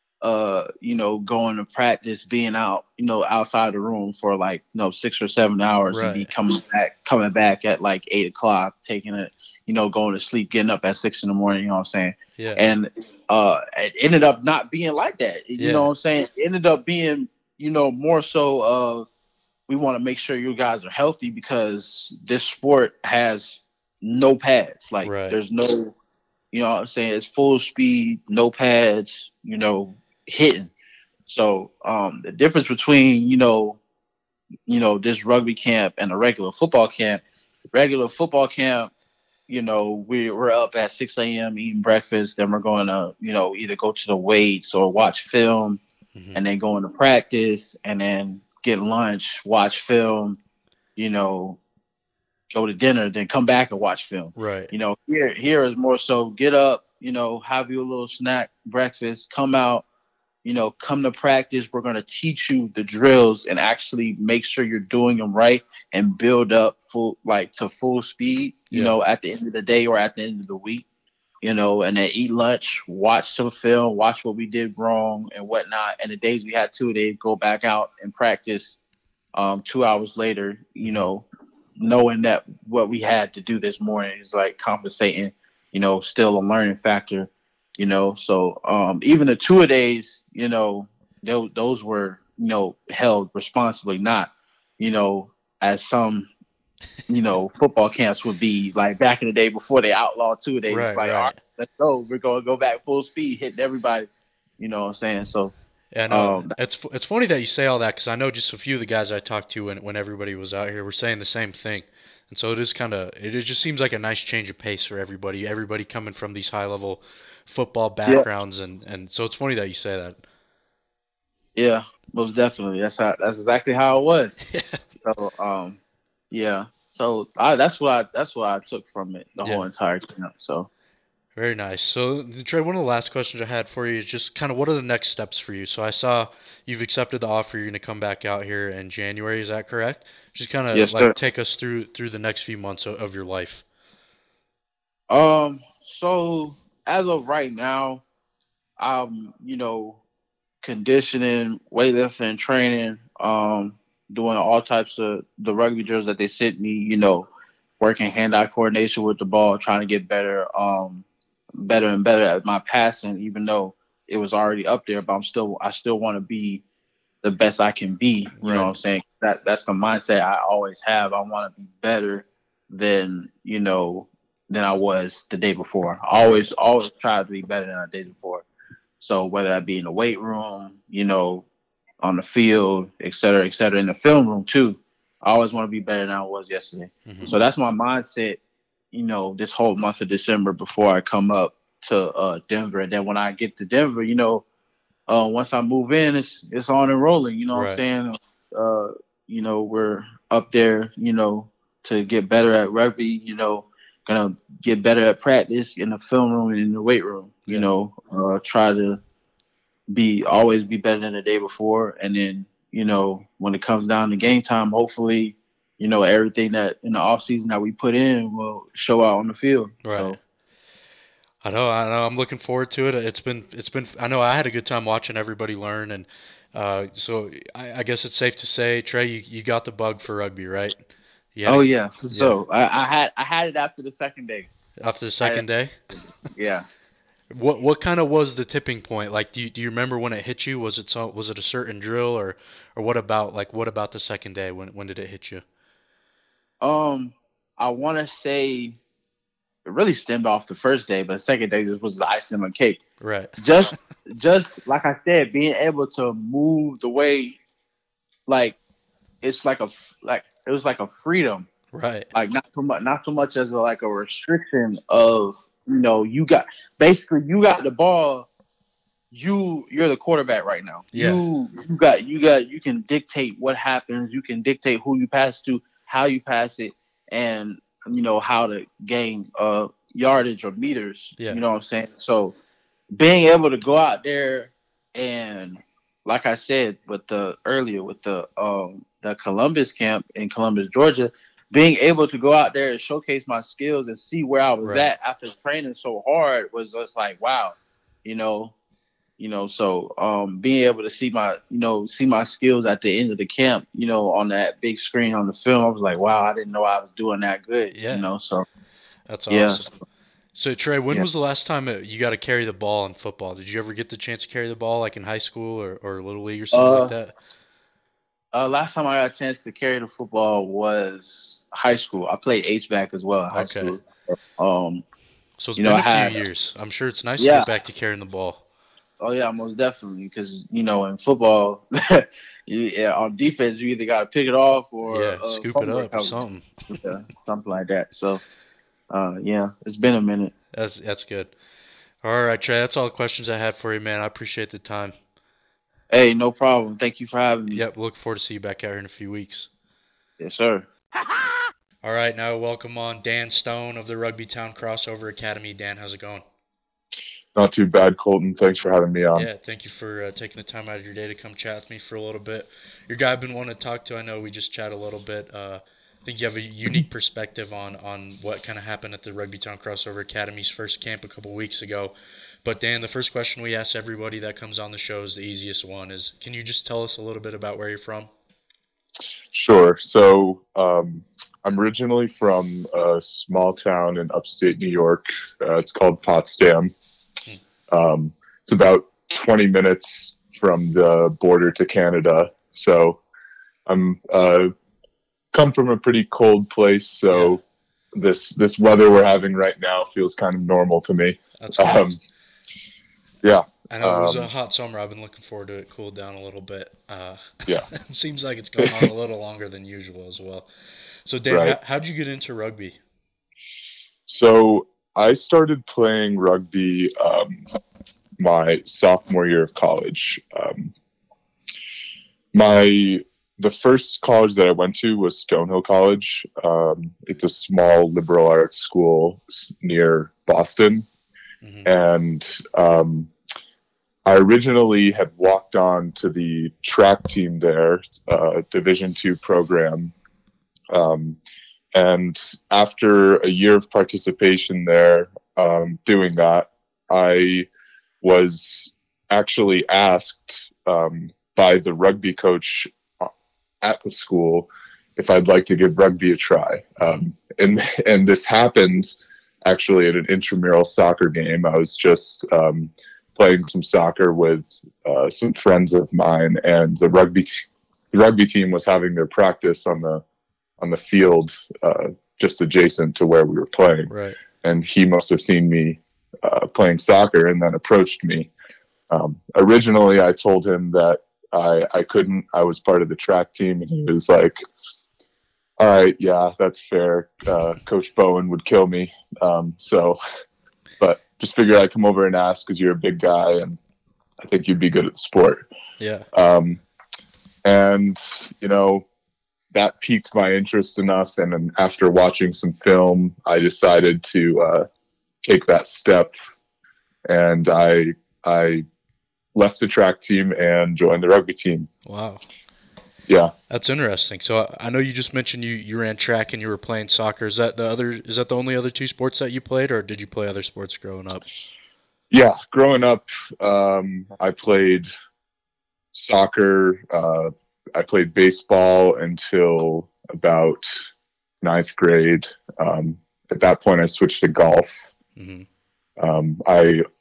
uh, you know, going to practice, being out, you know, outside the room for like, you know, six or seven hours and be Right. coming back, coming back at like eight o'clock, taking it, you know, going to sleep, getting up at six in the morning, you know what I'm saying? Yeah. And uh, it ended up not being like that. You Yeah. know what I'm saying? It ended up being, you know, more so of, we want to make sure you guys are healthy because this sport has no pads. Like Right. there's no, you know what I'm saying? It's full speed, no pads, you know, hitting. So um, the difference between, you know, you know, this rugby camp and a regular football camp, regular football camp, you know, we, we're up at six a.m. eating breakfast. Then we're going to, you know, either go to the weights or watch film, Mm-hmm. and then go into practice and then get lunch, watch film, you know, go to dinner, then come back and watch film. Right. You know, here here is more so get up, you know, have you a little snack, breakfast, come out, you know, come to practice. We're going to teach you the drills and actually make sure you're doing them right and build up full, like to full speed, you Yeah. know, at the end of the day or at the end of the week, you know, and then eat lunch, watch some film, watch what we did wrong and whatnot. And the days we had to, they'd go back out and practice um, two hours later, you Mhm. know, knowing that what we had to do this morning is like compensating, you know, still a learning factor, you know. So um, even the two a days, you know, those, those were, you know, held responsibly, not, you know, as some, you know, football camps would be like back in the day before they outlawed two a days. Right, It's like, right. all right, let's go. We're going to go back full speed, hitting everybody, you know what I'm saying? So, Yeah, no, um, it's it's funny that you say all that because I know just a few of the guys I talked to when when everybody was out here were saying the same thing, and so it is kind of it, it just seems like a nice change of pace for everybody. Everybody coming from these high level football backgrounds, and and so it's funny that you say that. yeah, most definitely. That's how, that's exactly how it was. Yeah. So, um, yeah. So I, that's what I, that's what I took from it, the Yeah. whole entire camp. So, Very nice. So, Trey, one of the last questions I had for you is just kind of what are the next steps for you? So, I saw you've accepted the offer. You're going to come back out here in January. Is that correct? Just kind of Yes, like sir. take us through through the next few months of, of your life. um, so as of right now, I'm, you know, conditioning, weightlifting, training, um, doing all types of the rugby drills that they sent me, you know, working hand-eye coordination with the ball, trying to get better, um, better and better at my passing, even though it was already up there, but I'm still, I still want to be the best I can be. You Right. know what I'm saying? That that's the mindset I always have. I want to be better than, you know, than I was the day before. I always, always try to be better than I did before. So whether that be in the weight room, you know, on the field, et cetera, et cetera, in the film room too, I always want to be better than I was yesterday. Mhm. So that's my mindset, you know, this whole month of December before I come up to uh, Denver. And then when I get to Denver, you know, uh, once I move in, it's it's on and rolling. You know what Right. I'm saying? Uh, you know, we're up there, you know, to get better at rugby, you know, gonna get better at practice in the film room and in the weight room, you Yeah. know, uh, try to be always be better than the day before. And then, you know, when it comes down to game time, hopefully, you know, everything that in the off season that we put in will show out on the field. Right. So I know, I know. I'm looking forward to it. It's been, it's been. I know I had a good time watching everybody learn, and uh, so I, I guess it's safe to say, Trey, you, you got the bug for rugby, right? You had oh it yeah. So I, I had I had it after the second day. after the second day. Yeah. What what kind of was the tipping point? Like, do you, do you remember when it hit you? Was it so, was it a certain drill, or or what about like what about the second day? When when did it hit you? Um, I want to say it really stemmed off the first day, but the second day this was the icing on the cake. Right. Just just like I said, being able to move the way, like it's like a like it was like a freedom. Right. Like not so much, not so much as a, like a restriction of, you know, you got basically you got the ball, you you're the quarterback right now. Yeah. You you got you got you can dictate what happens. You can dictate who you pass to, how you pass it, and you know how to gain uh yardage or meters. Yeah. You know what I'm saying? So being able to go out there and, like I said with the earlier with the um the Columbus camp in Columbus, Georgia. Being able to go out there and showcase my skills and see where I was Right. at after training so hard was just like, wow, you know, you know, so um, being able to see my, you know, see my skills at the end of the camp, you know, on that big screen on the film, I was like, wow, I didn't know I was doing that good, Yeah. you know, so That's yeah. awesome. So Trey, when Yeah. was the last time it, you got to carry the ball in football? Did you ever get the chance to carry the ball, like in high school or, or little league or something Uh, like that? Uh, last time I got a chance to carry the football was high school. I played H-back as well in high Okay. school. Um, So it's you been know, a I few had- years. I'm sure it's nice to Yeah. get back to carrying the ball. Oh yeah, most definitely. Because you know, in football, you, yeah, on defense, you either got to pick it off or Yeah, uh, scoop it fumble up or recovery. something. Yeah, something like that. So, uh, yeah, it's been a minute. That's that's good. All right, Trey, that's all the questions I had for you, man. I appreciate the time. Hey, no problem. Thank you for having me. Yep, look forward to see you back out here in a few weeks. Yes, sir. All right, now welcome on Dan Stone of the Rugby Town Crossover Academy. Dan, how's it going? Not too bad, Colton. Thanks for having me on. Yeah, thank you for uh, taking the time out of your day to come chat with me for a little bit. Your guy I've been wanting to talk to, I know we just chat a little bit. Uh, I think you have a unique perspective on, on what kind of happened at the Rugby Town Crossover Academy's first camp a couple weeks ago. But Dan, the first question we ask everybody that comes on the show is the easiest one. Is can you just tell us a little bit about where you're from? Sure. So um, I'm originally from a small town in upstate New York. Uh, it's called Potsdam. Um, it's about twenty minutes from the border to Canada. So I'm uh, come from a pretty cold place. So this this weather we're having right now feels kind of normal to me. That's good. Um, yeah. I know it was a um, hot summer. I've been looking forward to it cool down a little bit. Uh, Yeah. it seems like it's going on a little longer than usual as well. So, Dan, Right. how, how'd you get into rugby? So I started playing rugby um, my sophomore year of college. Um, my the first college that I went to was Stonehill College. Um, it's a small liberal arts school s- near Boston, Mhm. and um, I originally had walked on to the track team there, uh, Division two program. Um, and after a year of participation there, um, doing that, I was actually asked um, by the rugby coach at the school if I'd like to give rugby a try. Um, and and this happened actually at an intramural soccer game. I was just um, playing some soccer with uh, some friends of mine, and the rugby t- the rugby team was having their practice on the on the field uh, just adjacent to where we were playing. Right. And he must have seen me uh, playing soccer and then approached me. Um, originally, I told him that I, I couldn't. I was part of the track team, and he was like, all right, yeah, that's fair. Uh, Coach Bowen would kill me. Um, so, but just figured I'd come over and ask because you're a big guy, and I think you'd be good at the sport. Yeah. Um, and, you know, that piqued my interest enough. And then after watching some film, I decided to uh, take that step. And I, I left the track team and joined the rugby team. Wow. Yeah. That's interesting. So I I know you just mentioned you, you ran track and you were playing soccer. Is that the other? Is that the only other two sports that you played, or did you play other sports growing up? Yeah. Growing up, um, I played soccer. Uh, I played baseball until about ninth grade. Um, at that point, I switched to golf. hmm Um, I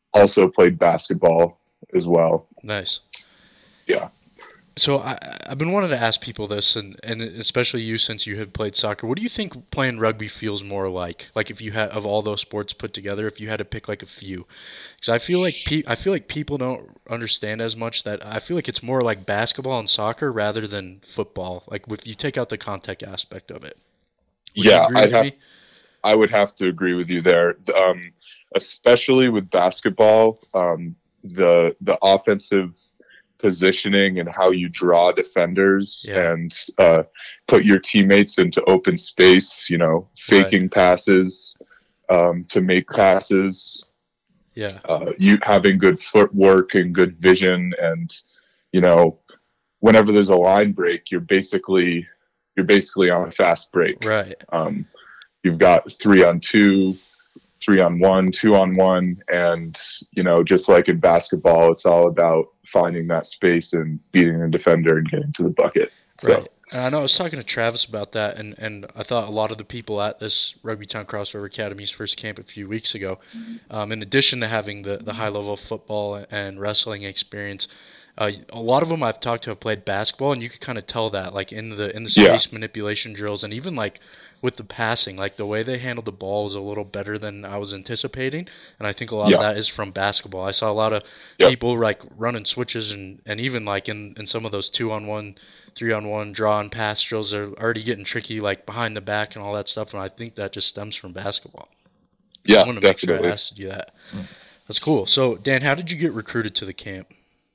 also played basketball as well. Nice. Yeah. So I, I've been wanting to ask people this, and, and especially you, since you have played soccer. What do you think playing rugby feels more like? Like if you had of all those sports put together, if you had to pick like a few, because I feel like pe- I feel like people don't understand as much that I feel like it's more like basketball and soccer rather than football. Like if you take out the contact aspect of it. Would you Yeah, agree I'd with have me? I would have to agree with you there. Um, especially with basketball, um, the the offensive positioning and how you draw defenders Yeah. and uh, put your teammates into open space, you know, faking Right. passes um, to make passes, Yeah. uh, you having good footwork and good vision. And, you know, whenever there's a line break, you're basically, you're basically on a fast break. Right. Um, you've got three on two, three on one, two on one. And, you know, just like in basketball, it's all about finding that space and beating the defender and getting to the bucket. So, Right. And I know I was talking to Travis about that, and, and I thought a lot of the people at this Rugby Town Crossover Academy's first camp a few weeks ago, um, in addition to having the, the high-level football and wrestling experience, uh, a lot of them I've talked to have played basketball, and you could kind of tell that, like in the in the Yeah. space manipulation drills, and even like with the passing, like the way they handled the ball was a little better than I was anticipating, and I think a lot Yeah. of that is from basketball. I saw a lot of Yep. people like running switches, and, and even like in, in some of those two-on-one, three-on-one draw and pass drills, they're already getting tricky, like behind the back and all that stuff, and I think that just stems from basketball. I yeah, want to make sure I definitely. asked you that. That's cool. So, Dan, how did you get recruited to the camp?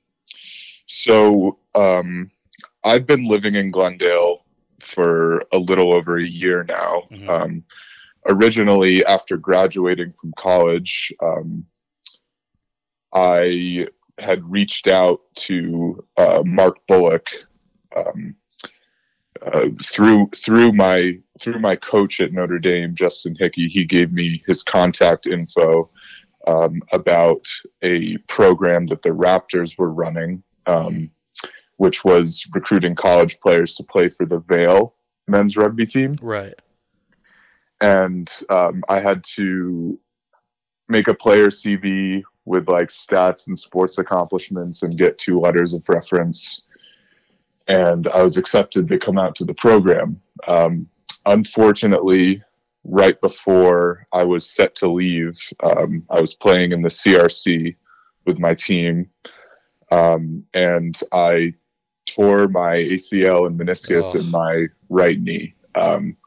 So um, I've been living in Glendale for a little over a year now. Mhm. Um, originally, after graduating from college, um, I had reached out to uh, Mark Bullock um, uh, through through my through my coach at Notre Dame, Justin Hickey. He gave me his contact info um, about a program that the Raptors were running, um, which was recruiting college players to play for the Vail men's rugby team. Right. And um, I had to make a player C V with like stats and sports accomplishments and get two letters of reference. And I was accepted to come out to the program. Um, unfortunately, right before I was set to leave, um, I was playing in the C R C with my team, um, and I tore my A C L and meniscus Oh. in my right knee. Um,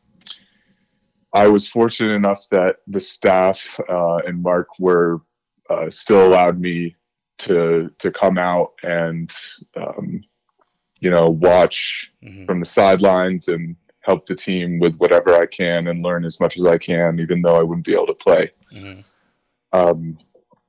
I was fortunate enough that the staff uh, and Mark were uh, still allowed me to to come out and um, you know watch Mhm. from the sidelines and help the team with whatever I can and learn as much as I can, even though I wouldn't be able to play. Mhm. Um,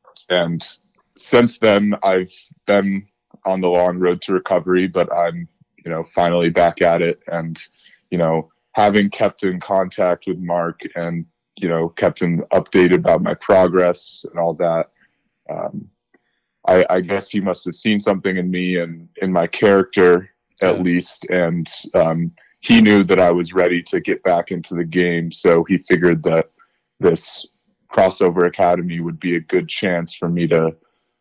and since then, I've been on the long road to recovery, but I'm, you know, finally back at it. And, you know, having kept in contact with Mark and, you know, kept him updated about my progress and all that, um, I, I guess he must have seen something in me and in my character, at Yeah. least. And um, he knew that I was ready to get back into the game. So he figured that this crossover academy would be a good chance for me to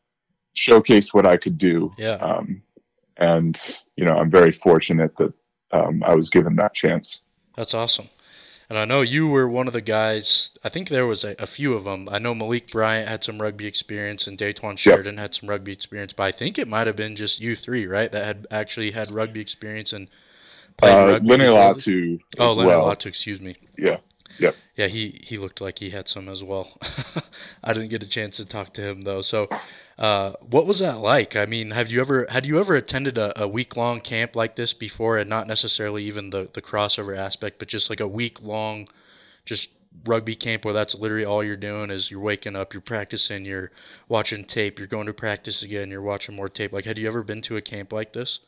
showcase what I could do. Yeah. Um, and, you know, I'm very fortunate that um, I was given that chance. That's awesome. And I know you were one of the guys, I think there was a, a few of them. I know Malik Bryant had some rugby experience and Daytwan Sheridan had some rugby experience, but I think it might have been just you three, right, that had actually had rugby experience and played Uh, rugby. Lenny before this? Latu Oh, as Leonard well. Latu, excuse me. Yeah. Yep. Yeah, he, he looked like he had some as well. I didn't get a chance to talk to him though. So, uh, what was that like? I mean, have you ever had you ever attended a, a week long camp like this before, and not necessarily even the, the crossover aspect, but just like a week long, just rugby camp where that's literally all you're doing is you're waking up, you're practicing, you're watching tape, you're going to practice again, you're watching more tape. Like, had you ever been to a camp like this?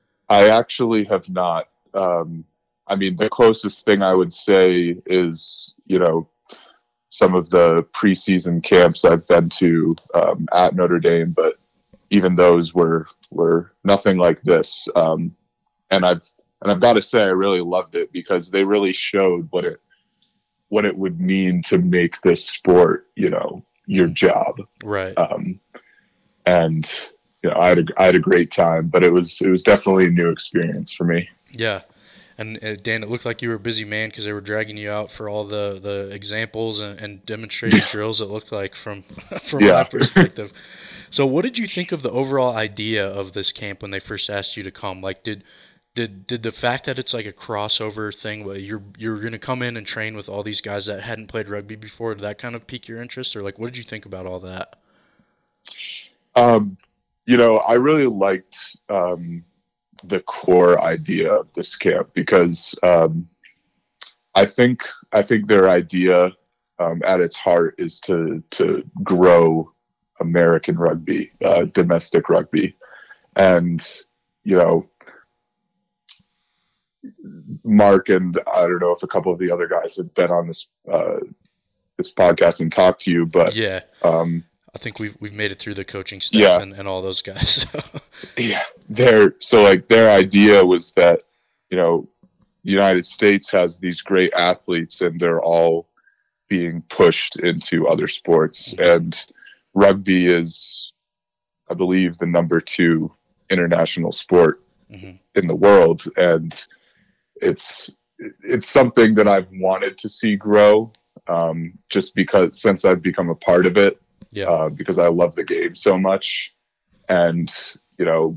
I actually have not. Um, I mean, the closest thing I would say is, you know, some of the preseason camps I've been to um, at Notre Dame, but even those were were nothing like this. Um, and I've and I've got to say, I really loved it because they really showed what it what it would mean to make this sport, you know, your job. Right. Um, and you know, I had a, I had a great time, but it was it was definitely a new experience for me. Yeah. And uh, Dan, it looked like you were a busy man because they were dragging you out for all the, the examples and, and demonstrating drills. It looked like from from Yeah. my perspective. So, what did you think of the overall idea of this camp when they first asked you to come? Like, did did did the fact that it's like a crossover thing, where you're you're going to come in and train with all these guys that hadn't played rugby before, did that kind of pique your interest, or like, what did you think about all that? Um, you know, I really liked um, the core idea of this camp because um, I think I think their idea um, at its heart is to to grow American rugby, uh, domestic rugby, and you know, Mark and I don't know if a couple of the other guys have been on this uh, this podcast and talked to you, but Yeah, um, I think we've we've made it through the coaching staff Yeah. and, and all those guys. So. yeah, their so like their idea was that you know the United States has these great athletes and they're all being pushed into other sports, and rugby is, I believe, the number two international sport Mhm. in the world, and it's it's something that I've wanted to see grow, um, just because since I've become a part of it, Yeah, uh, because I love the game so much, and you know,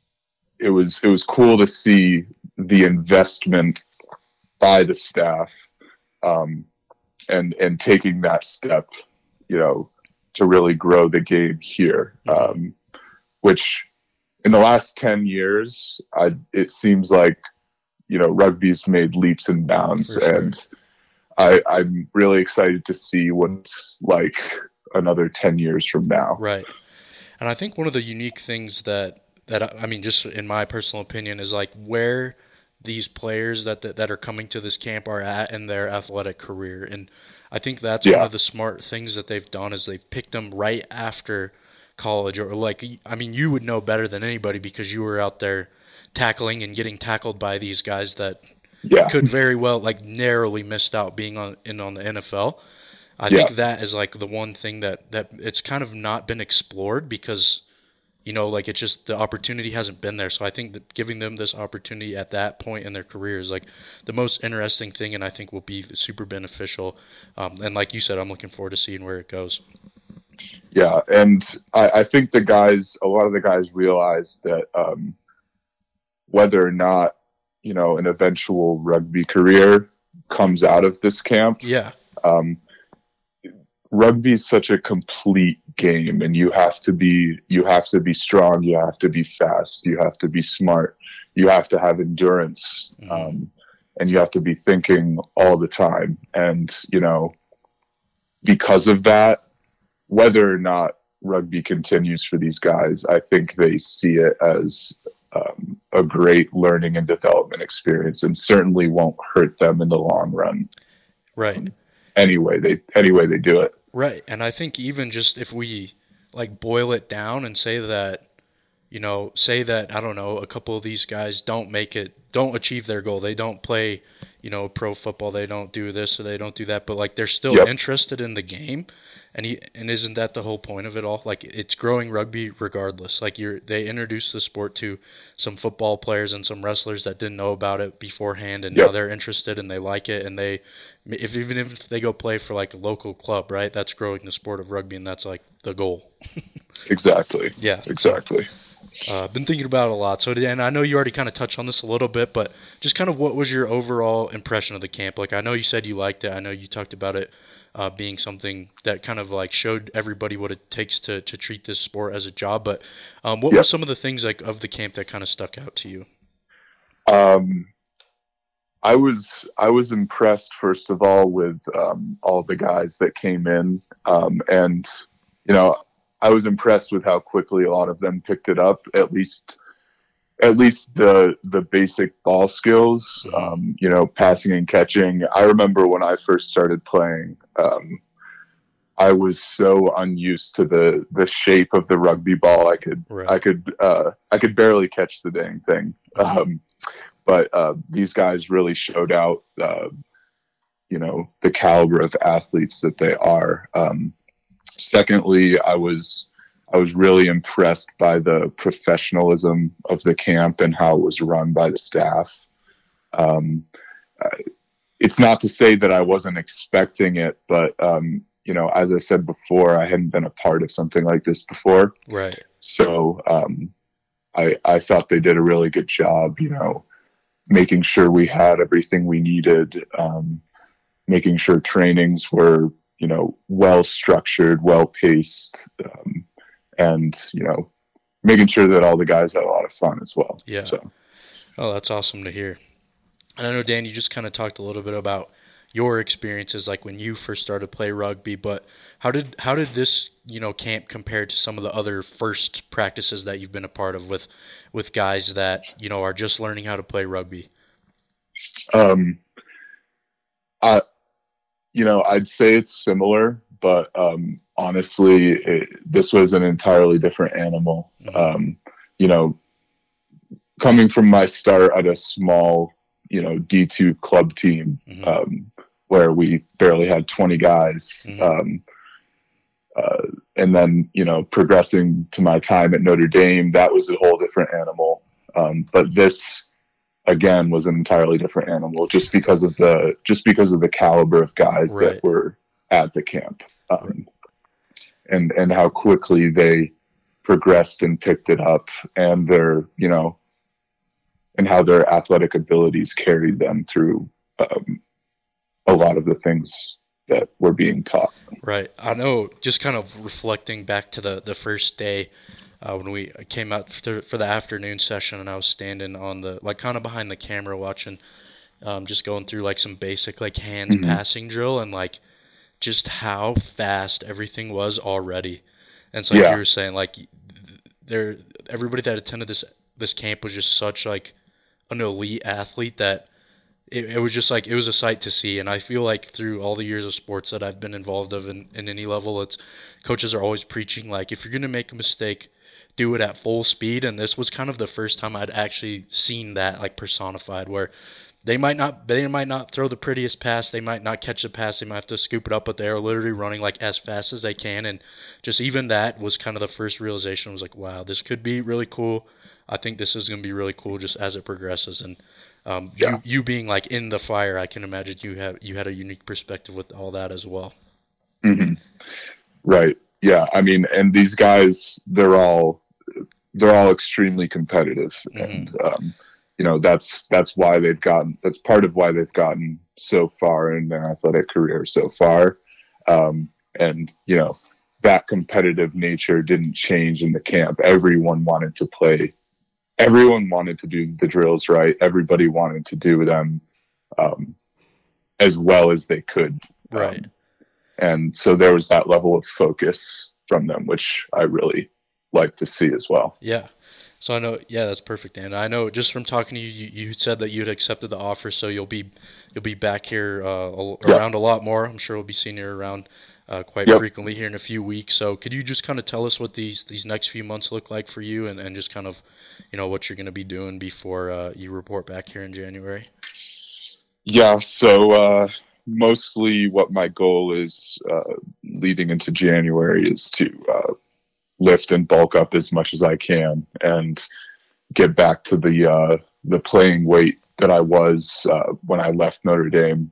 it was it was cool to see the investment by the staff, um, and and taking that step, you know, to really grow the game here, um, which in the last ten years, I, it seems like, you know, rugby's made leaps and bounds, For sure. and I, I'm really excited to see what's like another ten years from now. right. And I think one of the unique things that that I I mean, just in my personal opinion, is like where these players that that, that are coming to this camp are at in their athletic career, and I think that's one Yeah. of the smart things that they've done is they've picked them right after college, or like, I mean, you would know better than anybody because you were out there tackling and getting tackled by these guys that Yeah, could very well like narrowly missed out being on in on the N F L. I Yeah. think that is like the one thing that that it's kind of not been explored because you know like it's just the opportunity hasn't been there. So I think that giving them this opportunity at that point in their career is like the most interesting thing, and I think will be super beneficial. Um, and like you said, I'm looking forward to seeing where it goes. yeah, and I, I think the guys, a lot of the guys realize that um, whether or not, you know, an eventual rugby career comes out of this camp, Yeah, um, rugby is such a complete game, and you have to be you have to be strong, you have to be fast, you have to be smart, you have to have endurance, Mhm. um, and you have to be thinking all the time. And you know, because of that, whether or not rugby continues for these guys, I think they see it as um, a great learning and development experience, and certainly won't hurt them in the long run. right. Anyway, they anyway they do it. Right. And I think even just if we like boil it down and say that, you know, say that, I don't know, a couple of these guys don't make it, don't achieve their goal. They don't play, you know, pro football. They don't do this or they don't do that, but like they're still Yep. interested in the game. And he, and isn't that the whole point of it all? Like it's growing rugby regardless. Like you're, they introduced the sport to some football players and some wrestlers that didn't know about it beforehand, and now Yep. they're interested and they like it, and they, if even if they go play for like a local club, right? That's growing the sport of rugby, and that's like the goal. Exactly. Yeah. Exactly. Uh, I've been thinking about it a lot. So, and I know you already kind of touched on this a little bit, but just kind of what was your overall impression of the camp? Like, I know you said you liked it. I know you talked about it uh, being something that kind of like showed everybody what it takes to, to treat this sport as a job. But um, what Yep. were some of the things like of the camp that kind of stuck out to you? Um, I was I was impressed first of all with um, all the guys that came in, um, and you know, I was impressed with how quickly a lot of them picked it up. At least, at least the the basic ball skills, um, you know, passing and catching. I remember when I first started playing, um, I was so unused to the the shape of the rugby ball. I could Right. I could uh, I could barely catch the dang thing. Um, but uh, these guys really showed out, uh, you know, the caliber of athletes that they are. Um, secondly, I was I was really impressed by the professionalism of the camp and how it was run by the staff. Um, it's not to say that I wasn't expecting it, but um, you know, as I said before, I hadn't been a part of something like this before. Right. So um, I I thought they did a really good job, you know, making sure we had everything we needed, um, making sure trainings were, you know, well structured, well paced, um, and, you know, making sure that all the guys had a lot of fun as well. Yeah. So. Oh, that's awesome to hear. And I know, Dan, you just kind of talked a little bit about your experiences, like when you first started to play rugby, but how did how did this, you know, camp compare to some of the other first practices that you've been a part of with with guys that, you know, are just learning how to play rugby? Um, I, you know, I'd say it's similar, but um, honestly, it, this was an entirely different animal. Mm-hmm. Um, you know, coming from my start at a small, you know, D two club team, mm-hmm. um, where we barely had twenty guys, Mm-hmm. um, uh, and then, you know, progressing to my time at Notre Dame, that was a whole different animal. Um, but this, again, was an entirely different animal, just because of the just because of the caliber of guys Right. that were at the camp, um, and and how quickly they progressed and picked it up, and their, you know, and how their athletic abilities carried them through um, a lot of the things that were being taught. Right. I know, just kind of reflecting back to the, the first day uh, when we came out for, for the afternoon session, and I was standing on the, like, kind of behind the camera watching, um, just going through, like, some basic, like, hands Mhm. passing drill, and, like, just how fast everything was already. And so, like Yeah. you were saying, like, there, everybody that attended this this camp was just such, like, an elite athlete that it, it was just like, it was a sight to see. And I feel like through all the years of sports that I've been involved of in, in any level, it's coaches are always preaching, like, if you're going to make a mistake, do it at full speed. And this was kind of the first time I'd actually seen that, like, personified, where they might not they might not throw the prettiest pass, they might not catch the pass, they might have to scoop it up, but they're literally running, like, as fast as they can. And just even that was kind of the first realization. I was like, wow, this could be really cool. I think this is going to be really cool just as it progresses. And um, Yeah. you, you being, like, in the fire, I can imagine you have you had a unique perspective with all that as well. Mm-hmm. Right. Yeah. I mean, and these guys, they're all they're all extremely competitive, Mhm. and um, you know, that's that's why they've gotten that's part of why they've gotten so far in their athletic career so far. Um, and you know, that competitive nature didn't change in the camp. Everyone wanted to play. Everyone wanted to do the drills right. Everybody wanted to do them um, as well as they could. Right. Um, and so there was that level of focus from them, which I really like to see as well. Yeah. So I know, yeah, that's perfect, Dan. I know just from talking to you, you, you said that you had accepted the offer, so you'll be you'll be back here uh, a- Yep. around a lot more. I'm sure we'll be seeing you around uh, quite Yep. frequently here in a few weeks. So could you just kind of tell us what these these next few months look like for you, and, and just kind of, you know, what you're going to be doing before uh, you report back here in January? Yeah, so uh, mostly what my goal is uh, leading into January is to uh, lift and bulk up as much as I can and get back to the uh, the playing weight that I was uh, when I left Notre Dame.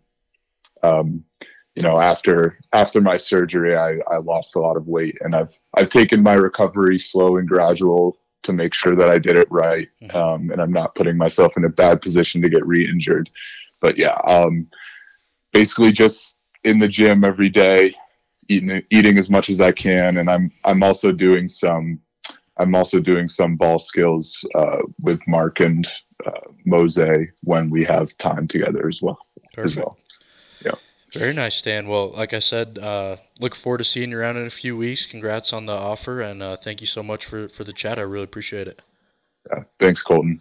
Um, you know, after after my surgery, I, I lost a lot of weight, and I've I've taken my recovery slow and gradual to make sure that I did it right, Mhm. um, and I'm not putting myself in a bad position to get re-injured. But yeah, um, basically just in the gym every day, eating eating as much as I can, and I'm I'm also doing some I'm also doing some ball skills uh, with Mark and uh, Mose when we have time together as well. As Perfect. well. Yeah. Very nice, Dan. Well, like I said, uh, look forward to seeing you around in a few weeks. Congrats on the offer, and uh, thank you so much for, for the chat. I really appreciate it. Yeah. Thanks, Colton.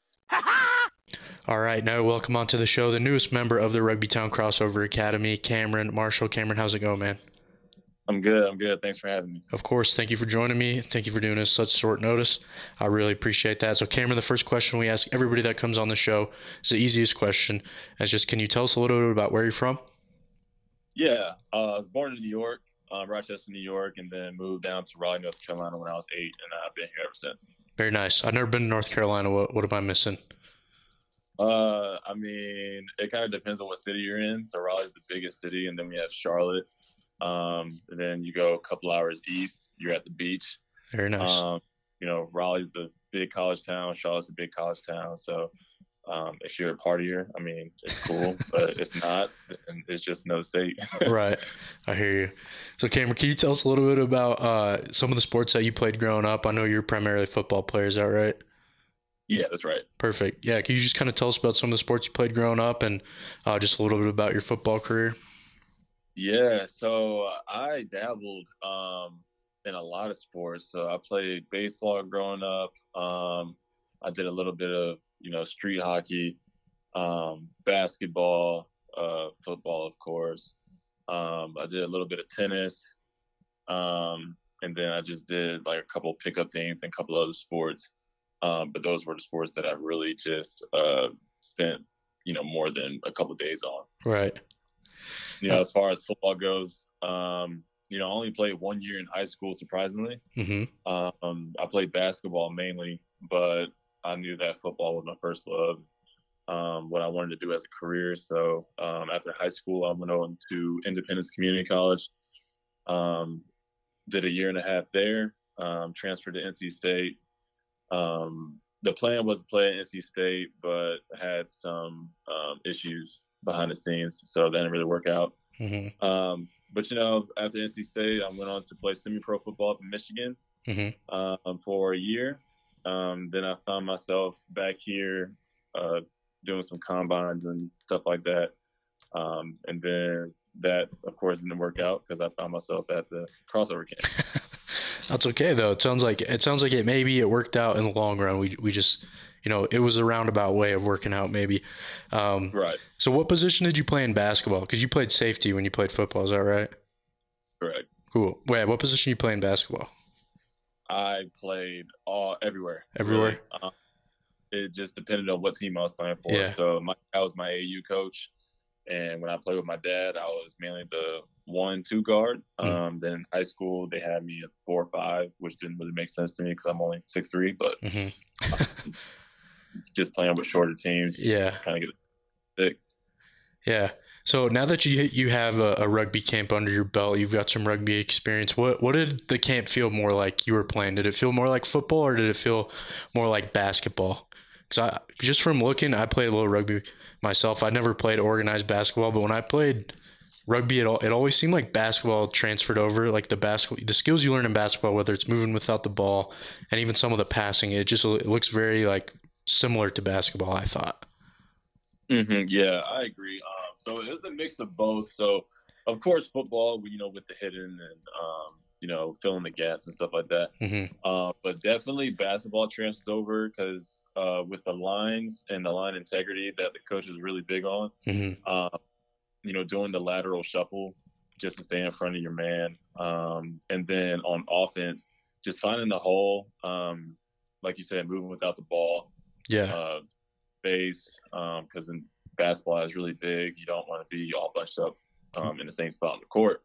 All right, now welcome onto the show the newest member of the Rugby Town Crossover Academy, Cameron Marshall. Cameron, how's it going, man? I'm good. I'm good. Thanks for having me. Of course, thank you for joining me. Thank you for doing this such short notice. I really appreciate that. So, Cameron, the first question we ask everybody that comes on the show is the easiest question. It's just, can you tell us a little bit about where you're from? Yeah, uh, I was born in New York, um, Rochester, New York, and then moved down to Raleigh, North Carolina when I was eight, and I've been here ever since. Very nice. I've never been to North Carolina. What what am I missing? Uh, I mean, it kind of depends on what city you're in. So Raleigh's the biggest city, and then we have Charlotte. Um, and then you go a couple hours east, you're at the beach. Very nice. Um, you know, Raleigh's the big college town. Charlotte's a big college town. So um, if you're a partier, I mean, it's cool. But if not, then it's just another state. Right. I hear you. So, Cameron, can you tell us a little bit about uh, some of the sports that you played growing up? I know you're primarily a football player. Is that right? Yeah, that's right. Perfect. Yeah. Can you just kind of tell us about some of the sports you played growing up and uh, just a little bit about your football career? Yeah, so I dabbled um, in a lot of sports. So I played baseball growing up. Um, I did a little bit of, you know, street hockey, um, basketball, uh, football, of course. Um, I did a little bit of tennis. Um, and then I just did like a couple pickup things and a couple other sports. Um, but those were the sports that I really just uh, spent, you know, more than a couple days on. Right. You know, as far as football goes, um, you know, I only played one year in high school, surprisingly. Mm-hmm. Um, I played basketball mainly, but I knew that football was my first love, um, what I wanted to do as a career. So um, after high school, I went on to Independence Community College, um, did a year and a half there, um, transferred to N C State. Um, the plan was to play at N C State, but had some um, issues behind the scenes, so that didn't really work out. Mm-hmm. Um, but, you know, after N C State, I went on to play semi-pro football up in Michigan Mm-hmm. um, for a year. Um, then I found myself back here uh, doing some combines and stuff like that. Um, and then that, of course, didn't work out because I found myself at the crossover camp. That's okay though. It sounds like it sounds like it maybe it worked out in the long run. We we just you know it was a roundabout way of working out maybe. Um, Right. So what position did you play in basketball? Because you played safety when you played football. Is that right? Correct. Cool. Wait, what position you play in basketball? I played all everywhere. Everywhere? Really. Um, it just depended on what team I was playing for. Yeah. So my, I was my A U coach, and when I played with my dad, I was mainly the one, two guard. Mm. Um, then in high school, they had me at four or five, which didn't really make sense to me because I'm only six three. But Mm-hmm. um, just playing with shorter teams, Yeah. kind of get thick. Yeah. So now that you you have a, a rugby camp under your belt, you've got some rugby experience. What what did the camp feel more like you were playing? Did it feel more like football or did it feel more like basketball? Because I just from looking, I played a little rugby myself. I never played organized basketball, but when I played rugby, it all it always seemed like basketball transferred over. Like the basketball, the skills you learn in basketball, whether it's moving without the ball and even some of the passing, it just it looks very like similar to basketball. I thought. Mm-hmm. Yeah, I agree. Um, so it was a mix of both. So, of course, football, you know, with the hidden and, um, you know, filling the gaps and stuff like that. Mm-hmm. Uh, but definitely basketball transfers over because uh, with the lines and the line integrity that the coach is really big on, Mm-hmm. uh, you know, doing the lateral shuffle just to stay in front of your man. Um, and then on offense, just finding the hole, um, like you said, moving without the ball. Yeah. Uh, base because um, in basketball is really big. You don't want to be all bunched up um, in the same spot on the court.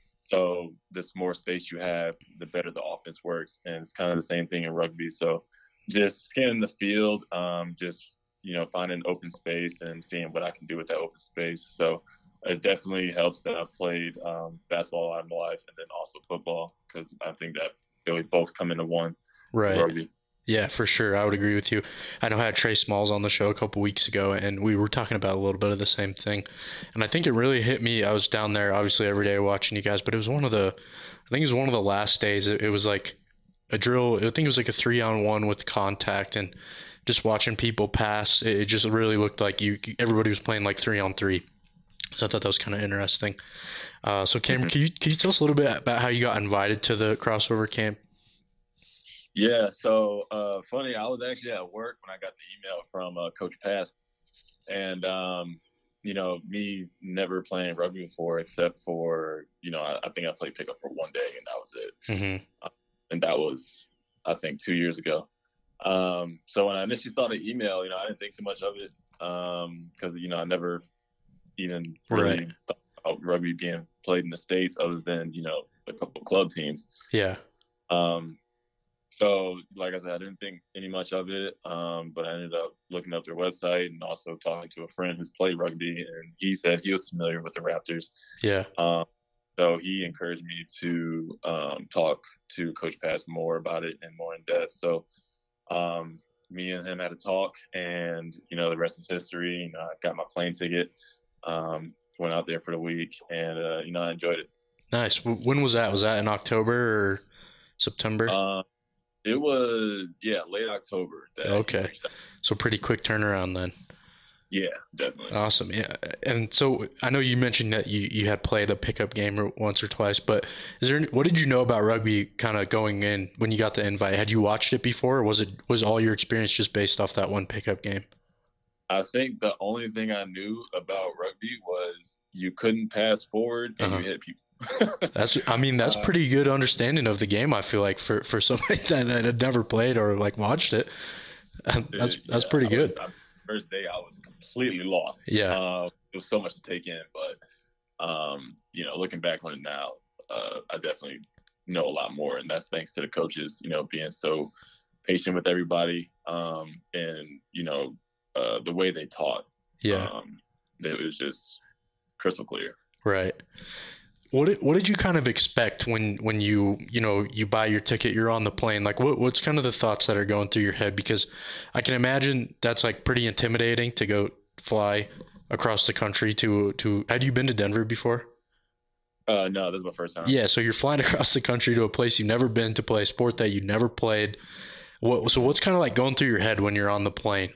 So the more space you have, the better the offense works. And it's kind of the same thing in rugby. So just scanning the field, um, just, you know, finding open space and seeing what I can do with that open space. So it definitely helps that I've played um, basketball all my life and then also football because I think that they both come into one. Right. Rugby. Yeah, for sure. I would agree with you. I know I had Trey Smalls on the show a couple weeks ago, and we were talking about a little bit of the same thing. And I think it really hit me. I was down there, obviously, every day watching you guys, but it was one of the, I think it was one of the last days. It, it was like a drill. I think it was like a three on one with contact, and just watching people pass. It, it just really looked like you. Everybody was playing like three on three. So I thought that was kind of interesting. Uh, so Cameron, mm-hmm. can you can you tell us a little bit about how you got invited to the crossover camp? Yeah, so uh, funny, I was actually at work when I got the email from uh, Coach Pass. And, um, you know, me never playing rugby before except for, you know, I, I think I played pickup for one day and that was it. Mm-hmm. Uh, and that was, I think, two years ago. Um, so when I initially saw the email, you know, I didn't think so much of it because, um, you know, I never even really right. thought about rugby being played in the States other than, you know, a couple of club teams. Yeah. Um, so, like I said, I didn't think any much of it, um, but I ended up looking up their website and also talking to a friend who's played rugby, and he said he was familiar with the Raptors. Yeah. Um, so he encouraged me to um, talk to Coach Pass more about it and more in depth. So um, me and him had a talk, and, you know, the rest is history. You know, I got my plane ticket, um, went out there for the week, and, uh, you know, I enjoyed it. Nice. When was that? Was that in October or September? Uh, it was, yeah, late October. That Okay. year. So pretty quick turnaround then. Yeah, definitely. Awesome. Yeah. And so I know you mentioned that you, you had played a pickup game once or twice, but is there any, what did you know about rugby kind of going in when you got the invite? Had you watched it before, or was it was all your experience just based off that one pickup game? I think the only thing I knew about rugby was you couldn't pass forward and Uh-huh. you hit people. That's I mean that's Uh, pretty good understanding of the game, I feel like, for for somebody that, that had never played or like watched it. That's that's Yeah, pretty I good. was- I- first day I was completely lost. Yeah. Uh, it was so much to take in, but um, you know, looking back on it now, uh, I definitely know a lot more, and that's thanks to the coaches, you know, being so patient with everybody, um, and you know, uh, the way they taught. Yeah. Um, it was just crystal clear. Right. What did, what did you kind of expect when, when you, you know, you buy your ticket, you're on the plane? Like, what what's kind of the thoughts that are going through your head? Because I can imagine that's like pretty intimidating to go fly across the country to, to, had you been to Denver before? Uh, no, this is my first time. Yeah, so you're flying across the country to a place you've never been to play a sport that you never played. What, so what's kind of like going through your head when you're on the plane?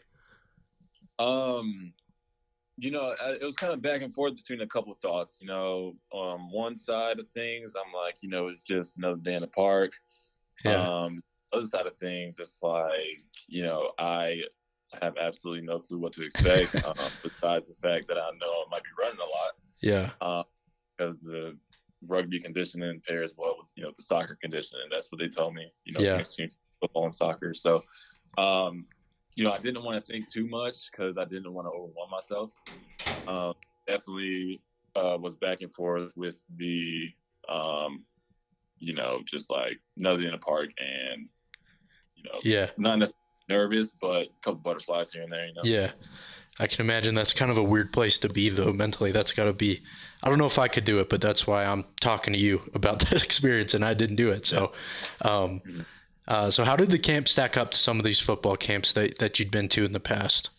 Um, you know, I- it was kind of back and forth between a couple of thoughts. You know, um, one side of things, I'm like, you know, it's just another day in the park. Yeah. Um, other side of things, it's like, you know, I have absolutely no clue what to expect. um, besides the fact that I know I might be running a lot, Yeah. uh, because the rugby conditioning pairs well with, you know, the soccer conditioning. That's what they told me. You know, Yeah. some exchange football and soccer. So, um, you know, I didn't want to think too much because I didn't want to overwhelm myself. Um, definitely uh, was back and forth with the, um, you know, just like nothing in the park and, you know, Yeah. not necessarily nervous, but a couple butterflies here and there, you know. Yeah. I can imagine that's kind of a weird place to be, though, mentally. That's got to be, I don't know if I could do it, but that's why I'm talking to you about that experience, and I didn't do it. So, um, Mhm. uh, so how did the camp stack up to some of these football camps that, that you'd been to in the past?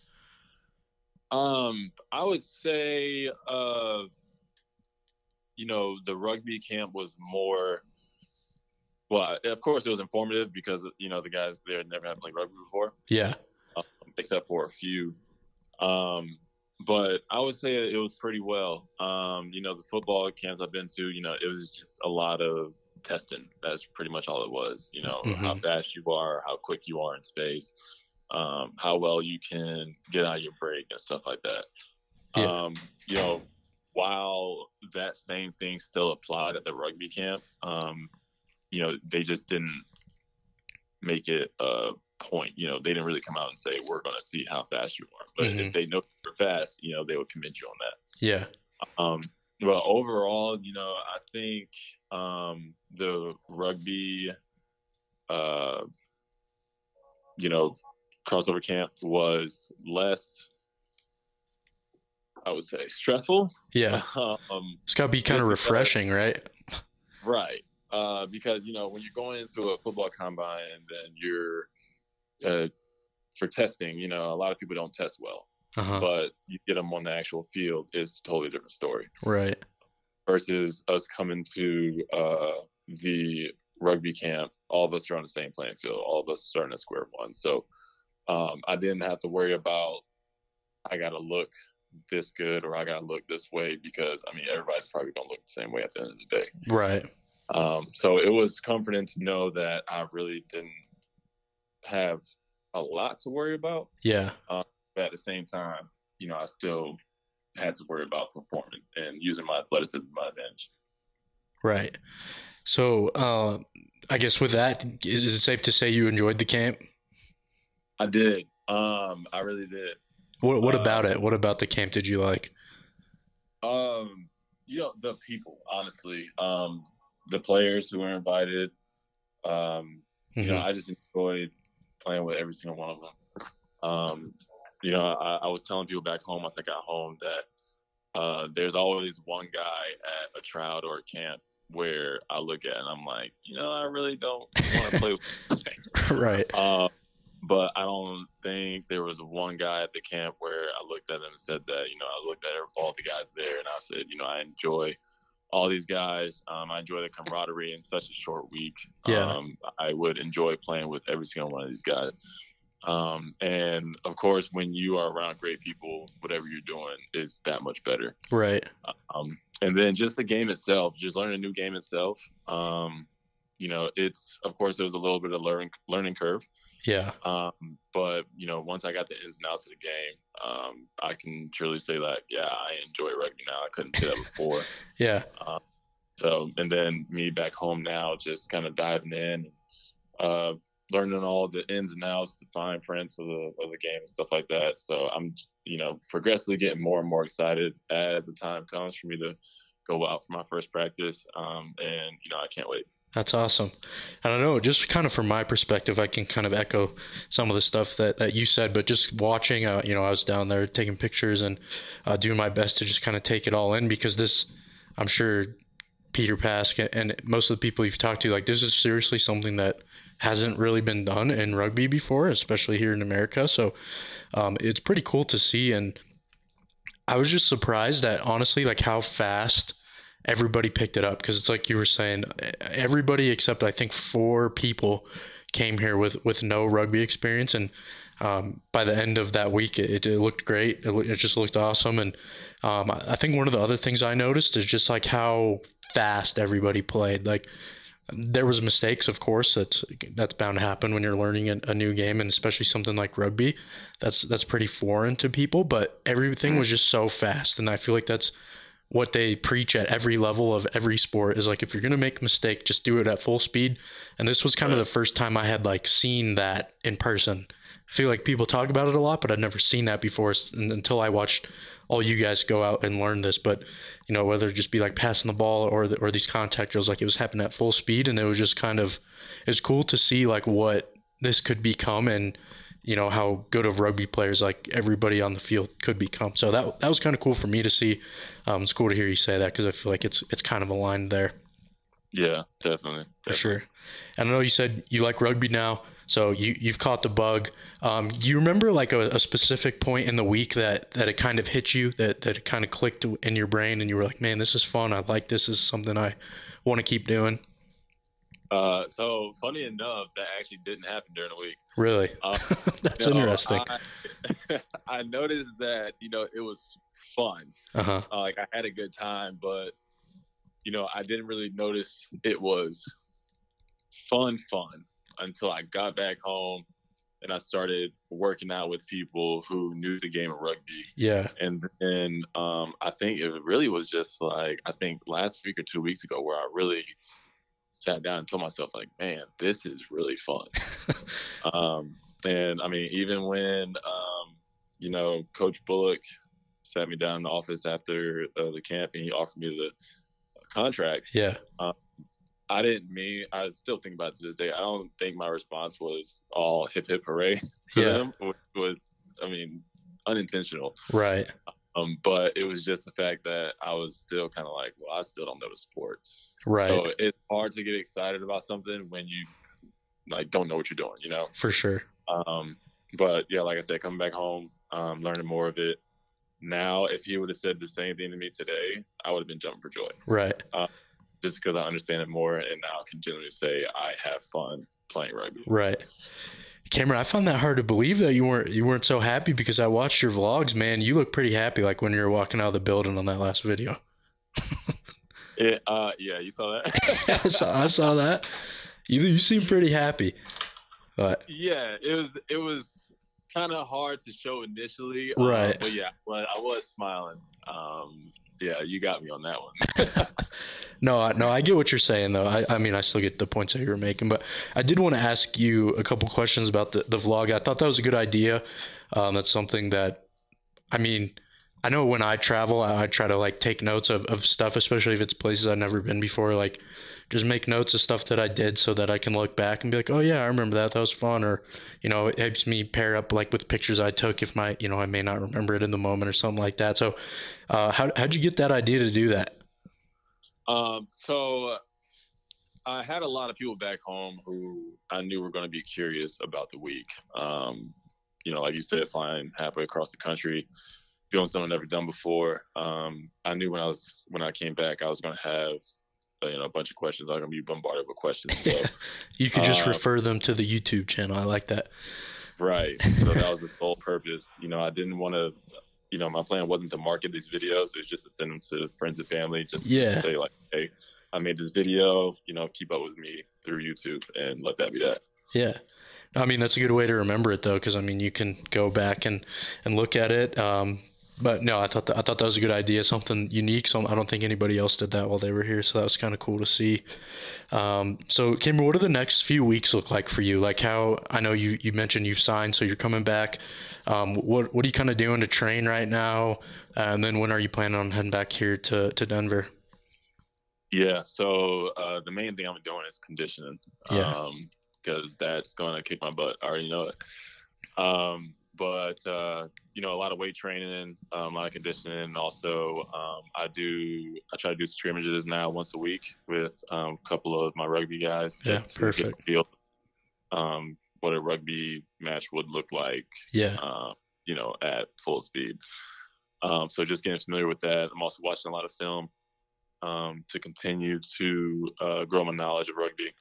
Um, I would say, uh, you know, the rugby camp was more, well, of course it was informative because, you know, the guys there never had played rugby before, Yeah. um, except for a few. Um, but I would say it was pretty well. Um, you know, the football camps I've been to, you know, it was just a lot of testing. That's pretty much all it was. You know, how Mhm. fast you are, how quick you are in space, um, how well you can get out of your break and stuff like that. Yeah. Um, you know, while that same thing still applied at the rugby camp, um, you know, they just didn't make it a point. You know, they didn't really come out and say, we're going to see how fast you are. But Mhm. if they know you're fast, you know, they would commend you on that. Yeah. Um, well, overall, you know, I think um, the rugby, uh, you know, crossover camp was less, I would say, stressful. Yeah. um, It's got to be kind of Just because- refreshing, right? right. Uh, because, you know, when you're going into a football combine and then you're uh, for testing, you know, a lot of people don't test well, Uh-huh. but you get them on the actual field, it's a totally different story. Right. Versus us coming to uh, the rugby camp, all of us are on the same playing field. All of us are starting at square one. So um, I didn't have to worry about, I got to look this good or I got to look this way because, I mean, everybody's probably going to look the same way at the end of the day. Right. Um, so it was comforting to know that I really didn't have a lot to worry about. Yeah. But at the same time, you know, I still had to worry about performing and using my athleticism to my advantage. Right. So, uh, I guess with that, is it safe to say you enjoyed the camp? I did. Um, I really did. What What Uh, about it? What about the camp did you like? Um, you know, the people, honestly, um, the players who were invited. Um, you Mm-hmm. know, I just enjoyed playing with every single one of them. Um, you know, I, I was telling people back home once I got home that uh, there's always one guy at a tryout or a camp where I look at and I'm like, you know, I really don't want to play with Right. uh, but I don't think there was one guy at the camp where I looked at him and said that, you know, I looked at all the guys there and I said, you know, I enjoy all these guys. Um, I enjoy the camaraderie in such a short week. Yeah. Um, I would enjoy playing with every single one of these guys. Um, and of course, when you are around great people, whatever you're doing is that much better. Right. Um, and then just the game itself, just learning a new game itself. Um, you know, it's, of course, there was a little bit of learning, learning curve. Yeah. Um, but, you know, once I got the ins and outs of the game, um, I can truly say that, yeah, I enjoy rugby now. I couldn't say that before. Yeah. Um, so, and then me back home now, just kind of diving in, uh, learning all the ins and outs, the fine prints of the of the game and stuff like that. So I'm, you know, progressively getting more and more excited as the time comes for me to go out for my first practice. Um, and, you know, I can't wait. That's awesome. And I know, just kind of from my perspective, I can kind of echo some of the stuff that, that you said, but just watching, uh, you know, I was down there taking pictures and uh, doing my best to just kind of take it all in, because this, I'm sure Peter Pask and most of the people you've talked to, like, this is seriously something that hasn't really been done in rugby before, especially here in America. So um, it's pretty cool to see. And I was just surprised at, honestly, like, how fast everybody picked it up, because it's like you were saying, everybody except I think four people came here with, with no rugby experience. And um, by the end of that week, it, it looked great. It, it just looked awesome. And um, I think one of the other things I noticed is just like how fast everybody played. Like, there was mistakes, of course, that's that's bound to happen when you're learning a, a new game, and especially something like rugby, that's that's pretty foreign to people. But everything was just so fast, and I feel like that's what they preach at every level of every sport, is like, if you're gonna make a mistake, just do it at full speed. And this was kind of the first time I had like seen that in person. I feel like people talk about it a lot, but I'd never seen that before until I watched all you guys go out and learn this. But, you know, whether it just be like passing the ball or the, or these contact drills, like, it was happening at full speed, and it was just kind of, it was cool to see like what this could become, and, you know, how good of rugby players like everybody on the field could become. So that that was kind of cool for me to see. Um, it's cool to hear you say that, because I feel like it's it's kind of aligned there. Yeah, definitely. For sure. And I know you said you like rugby now, so you, you've caught the bug. Um, do you remember like a, a specific point in the week that, that it kind of hit you, that, that it kind of clicked in your brain and you were like, man, this is fun. I like this. This is something I want to keep doing? Uh, so funny enough, that actually didn't happen during the week. Really? Uh, That's no, interesting. I, I noticed that, you know, it was fun. Uh-huh. Uh, like, I had a good time, but, you know, I didn't really notice it was fun, fun until I got back home and I started working out with people who knew the game of rugby. Yeah. And then um, I think it really was just like, I think last week or two weeks ago where I really sat down and told myself, like, man, this is really fun. um, and I mean, even when, um, you know, Coach Bullock sat me down in the office after uh, the camp and he offered me the contract. Yeah. Um, I didn't mean, I still think about it to this day. I don't think my response was all hip hip hooray to Yeah. them. It was, I mean, unintentional. Right. Um, but it was just the fact that I was still kind of like, well, I still don't know the sport. Right. So it's hard to get excited about something when you like don't know what you're doing, you know? For sure. Um, but yeah, like I said, coming back home, um, learning more of it. Now, if he would have said the same thing to me today, I would have been jumping for joy. Right. Uh, just because I understand it more, and now I can genuinely say I have fun playing rugby. Right. Cameron, I found that hard to believe that you weren't you weren't so happy, because I watched your vlogs, man. You look pretty happy, like when you were walking out of the building on that last video. It, uh, yeah, you saw that? I saw I saw that. You you seem pretty happy. But Yeah, it was it was kind of hard to show initially, Right. Uh, but yeah, but I was smiling. Um, yeah, you got me on that one. no, I, no, I get what you're saying though. I, I mean, I still get the points that you were making, but I did want to ask you a couple questions about the, the vlog. I thought that was a good idea. Um, that's something that, I mean, I know when I travel, I, I try to like take notes of, of stuff, especially if it's places I've never been before. Like, just make notes of stuff that I did so that I can look back and be like, oh yeah, I remember that. That was fun. Or, you know, it helps me pair up like with pictures I took if my, you know, I may not remember it in the moment or something like that. So, uh, how how'd you get that idea to do that? Um, so I had a lot of people back home who I knew were going to be curious about the week. Um, you know, like you said, flying halfway across the country, doing something I've never done before. Um, I knew when I was when I came back, I was going to have uh, you know a bunch of questions. I was going to be bombarded with questions. So you could just uh, refer them to the YouTube channel. I like that. Right. So that was the sole purpose. You know, I didn't want to. You know, my plan wasn't to market these videos. It was just to send them to friends and family. Just yeah. to say like, hey, I made this video. You know, keep up with me through YouTube, and let that be that. Yeah. I mean, that's a good way to remember it, though, because, I mean, you can go back and, and look at it. Um, but, no, I thought that, I thought that was a good idea, something unique. So I don't think anybody else did that while they were here. So that was kind of cool to see. Um, so, Cameron, what do the next few weeks look like for you? Like how – I know you, you mentioned you've signed, so you're coming back. Um, what, what are you kind of doing to train right now? Uh, and then when are you planning on heading back here to, to Denver? Yeah, so uh, the main thing I'm doing is conditioning. Yeah. Um, because that's going to kick my butt. I already know it. Um, but, uh, you know, a lot of weight training, um, a lot of conditioning. And also, um, I do, I try to do scrimmages now once a week with um, a couple of my rugby guys. Just Yeah, perfect. To get a feel, um, what a rugby match would look like, Yeah. uh, you know, at full speed. Um, so just getting familiar with that. I'm also watching a lot of film um, to continue to uh, grow my knowledge of rugby.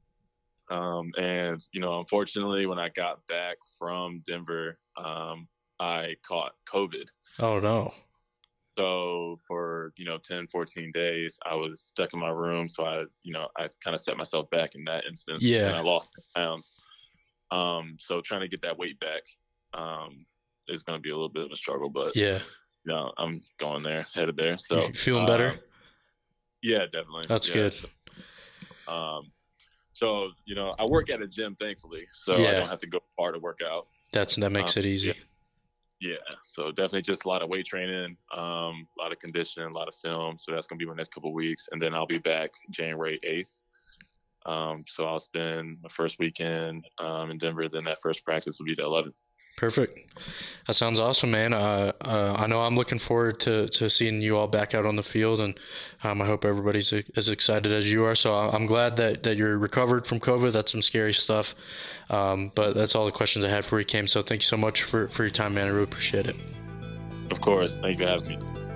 Um, and, you know, unfortunately, when I got back from Denver, um, I caught COVID. Oh, no. So for, you know, ten, fourteen days, I was stuck in my room. So I, you know, I kind of set myself back in that instance. Yeah. And I lost ten pounds. Um, so trying to get that weight back um, is going to be a little bit of a struggle. But, Yeah. you know, I'm going there, headed there. So You feeling better? uh, yeah, definitely. That's yeah. good. Um, So, you know, I work at a gym, thankfully, so Yeah. I don't have to go far to work out. That's that makes Um, it easy. Yeah, so definitely just a lot of weight training, um, a lot of conditioning, a lot of film. So that's going to be my next couple of weeks. And then I'll be back January eighth. Um, so I'll spend my first weekend um, in Denver. Then that first practice will be the eleventh. Perfect. That sounds awesome, man. Uh, uh, I know I'm looking forward to, to seeing you all back out on the field, and um, I hope everybody's as excited as you are. So I'm glad that, that you're recovered from COVID. That's some scary stuff. Um, but that's all the questions I had for you, Cam. So thank you so much for, for your time, man. I really appreciate it. Of course. Thank you for having me.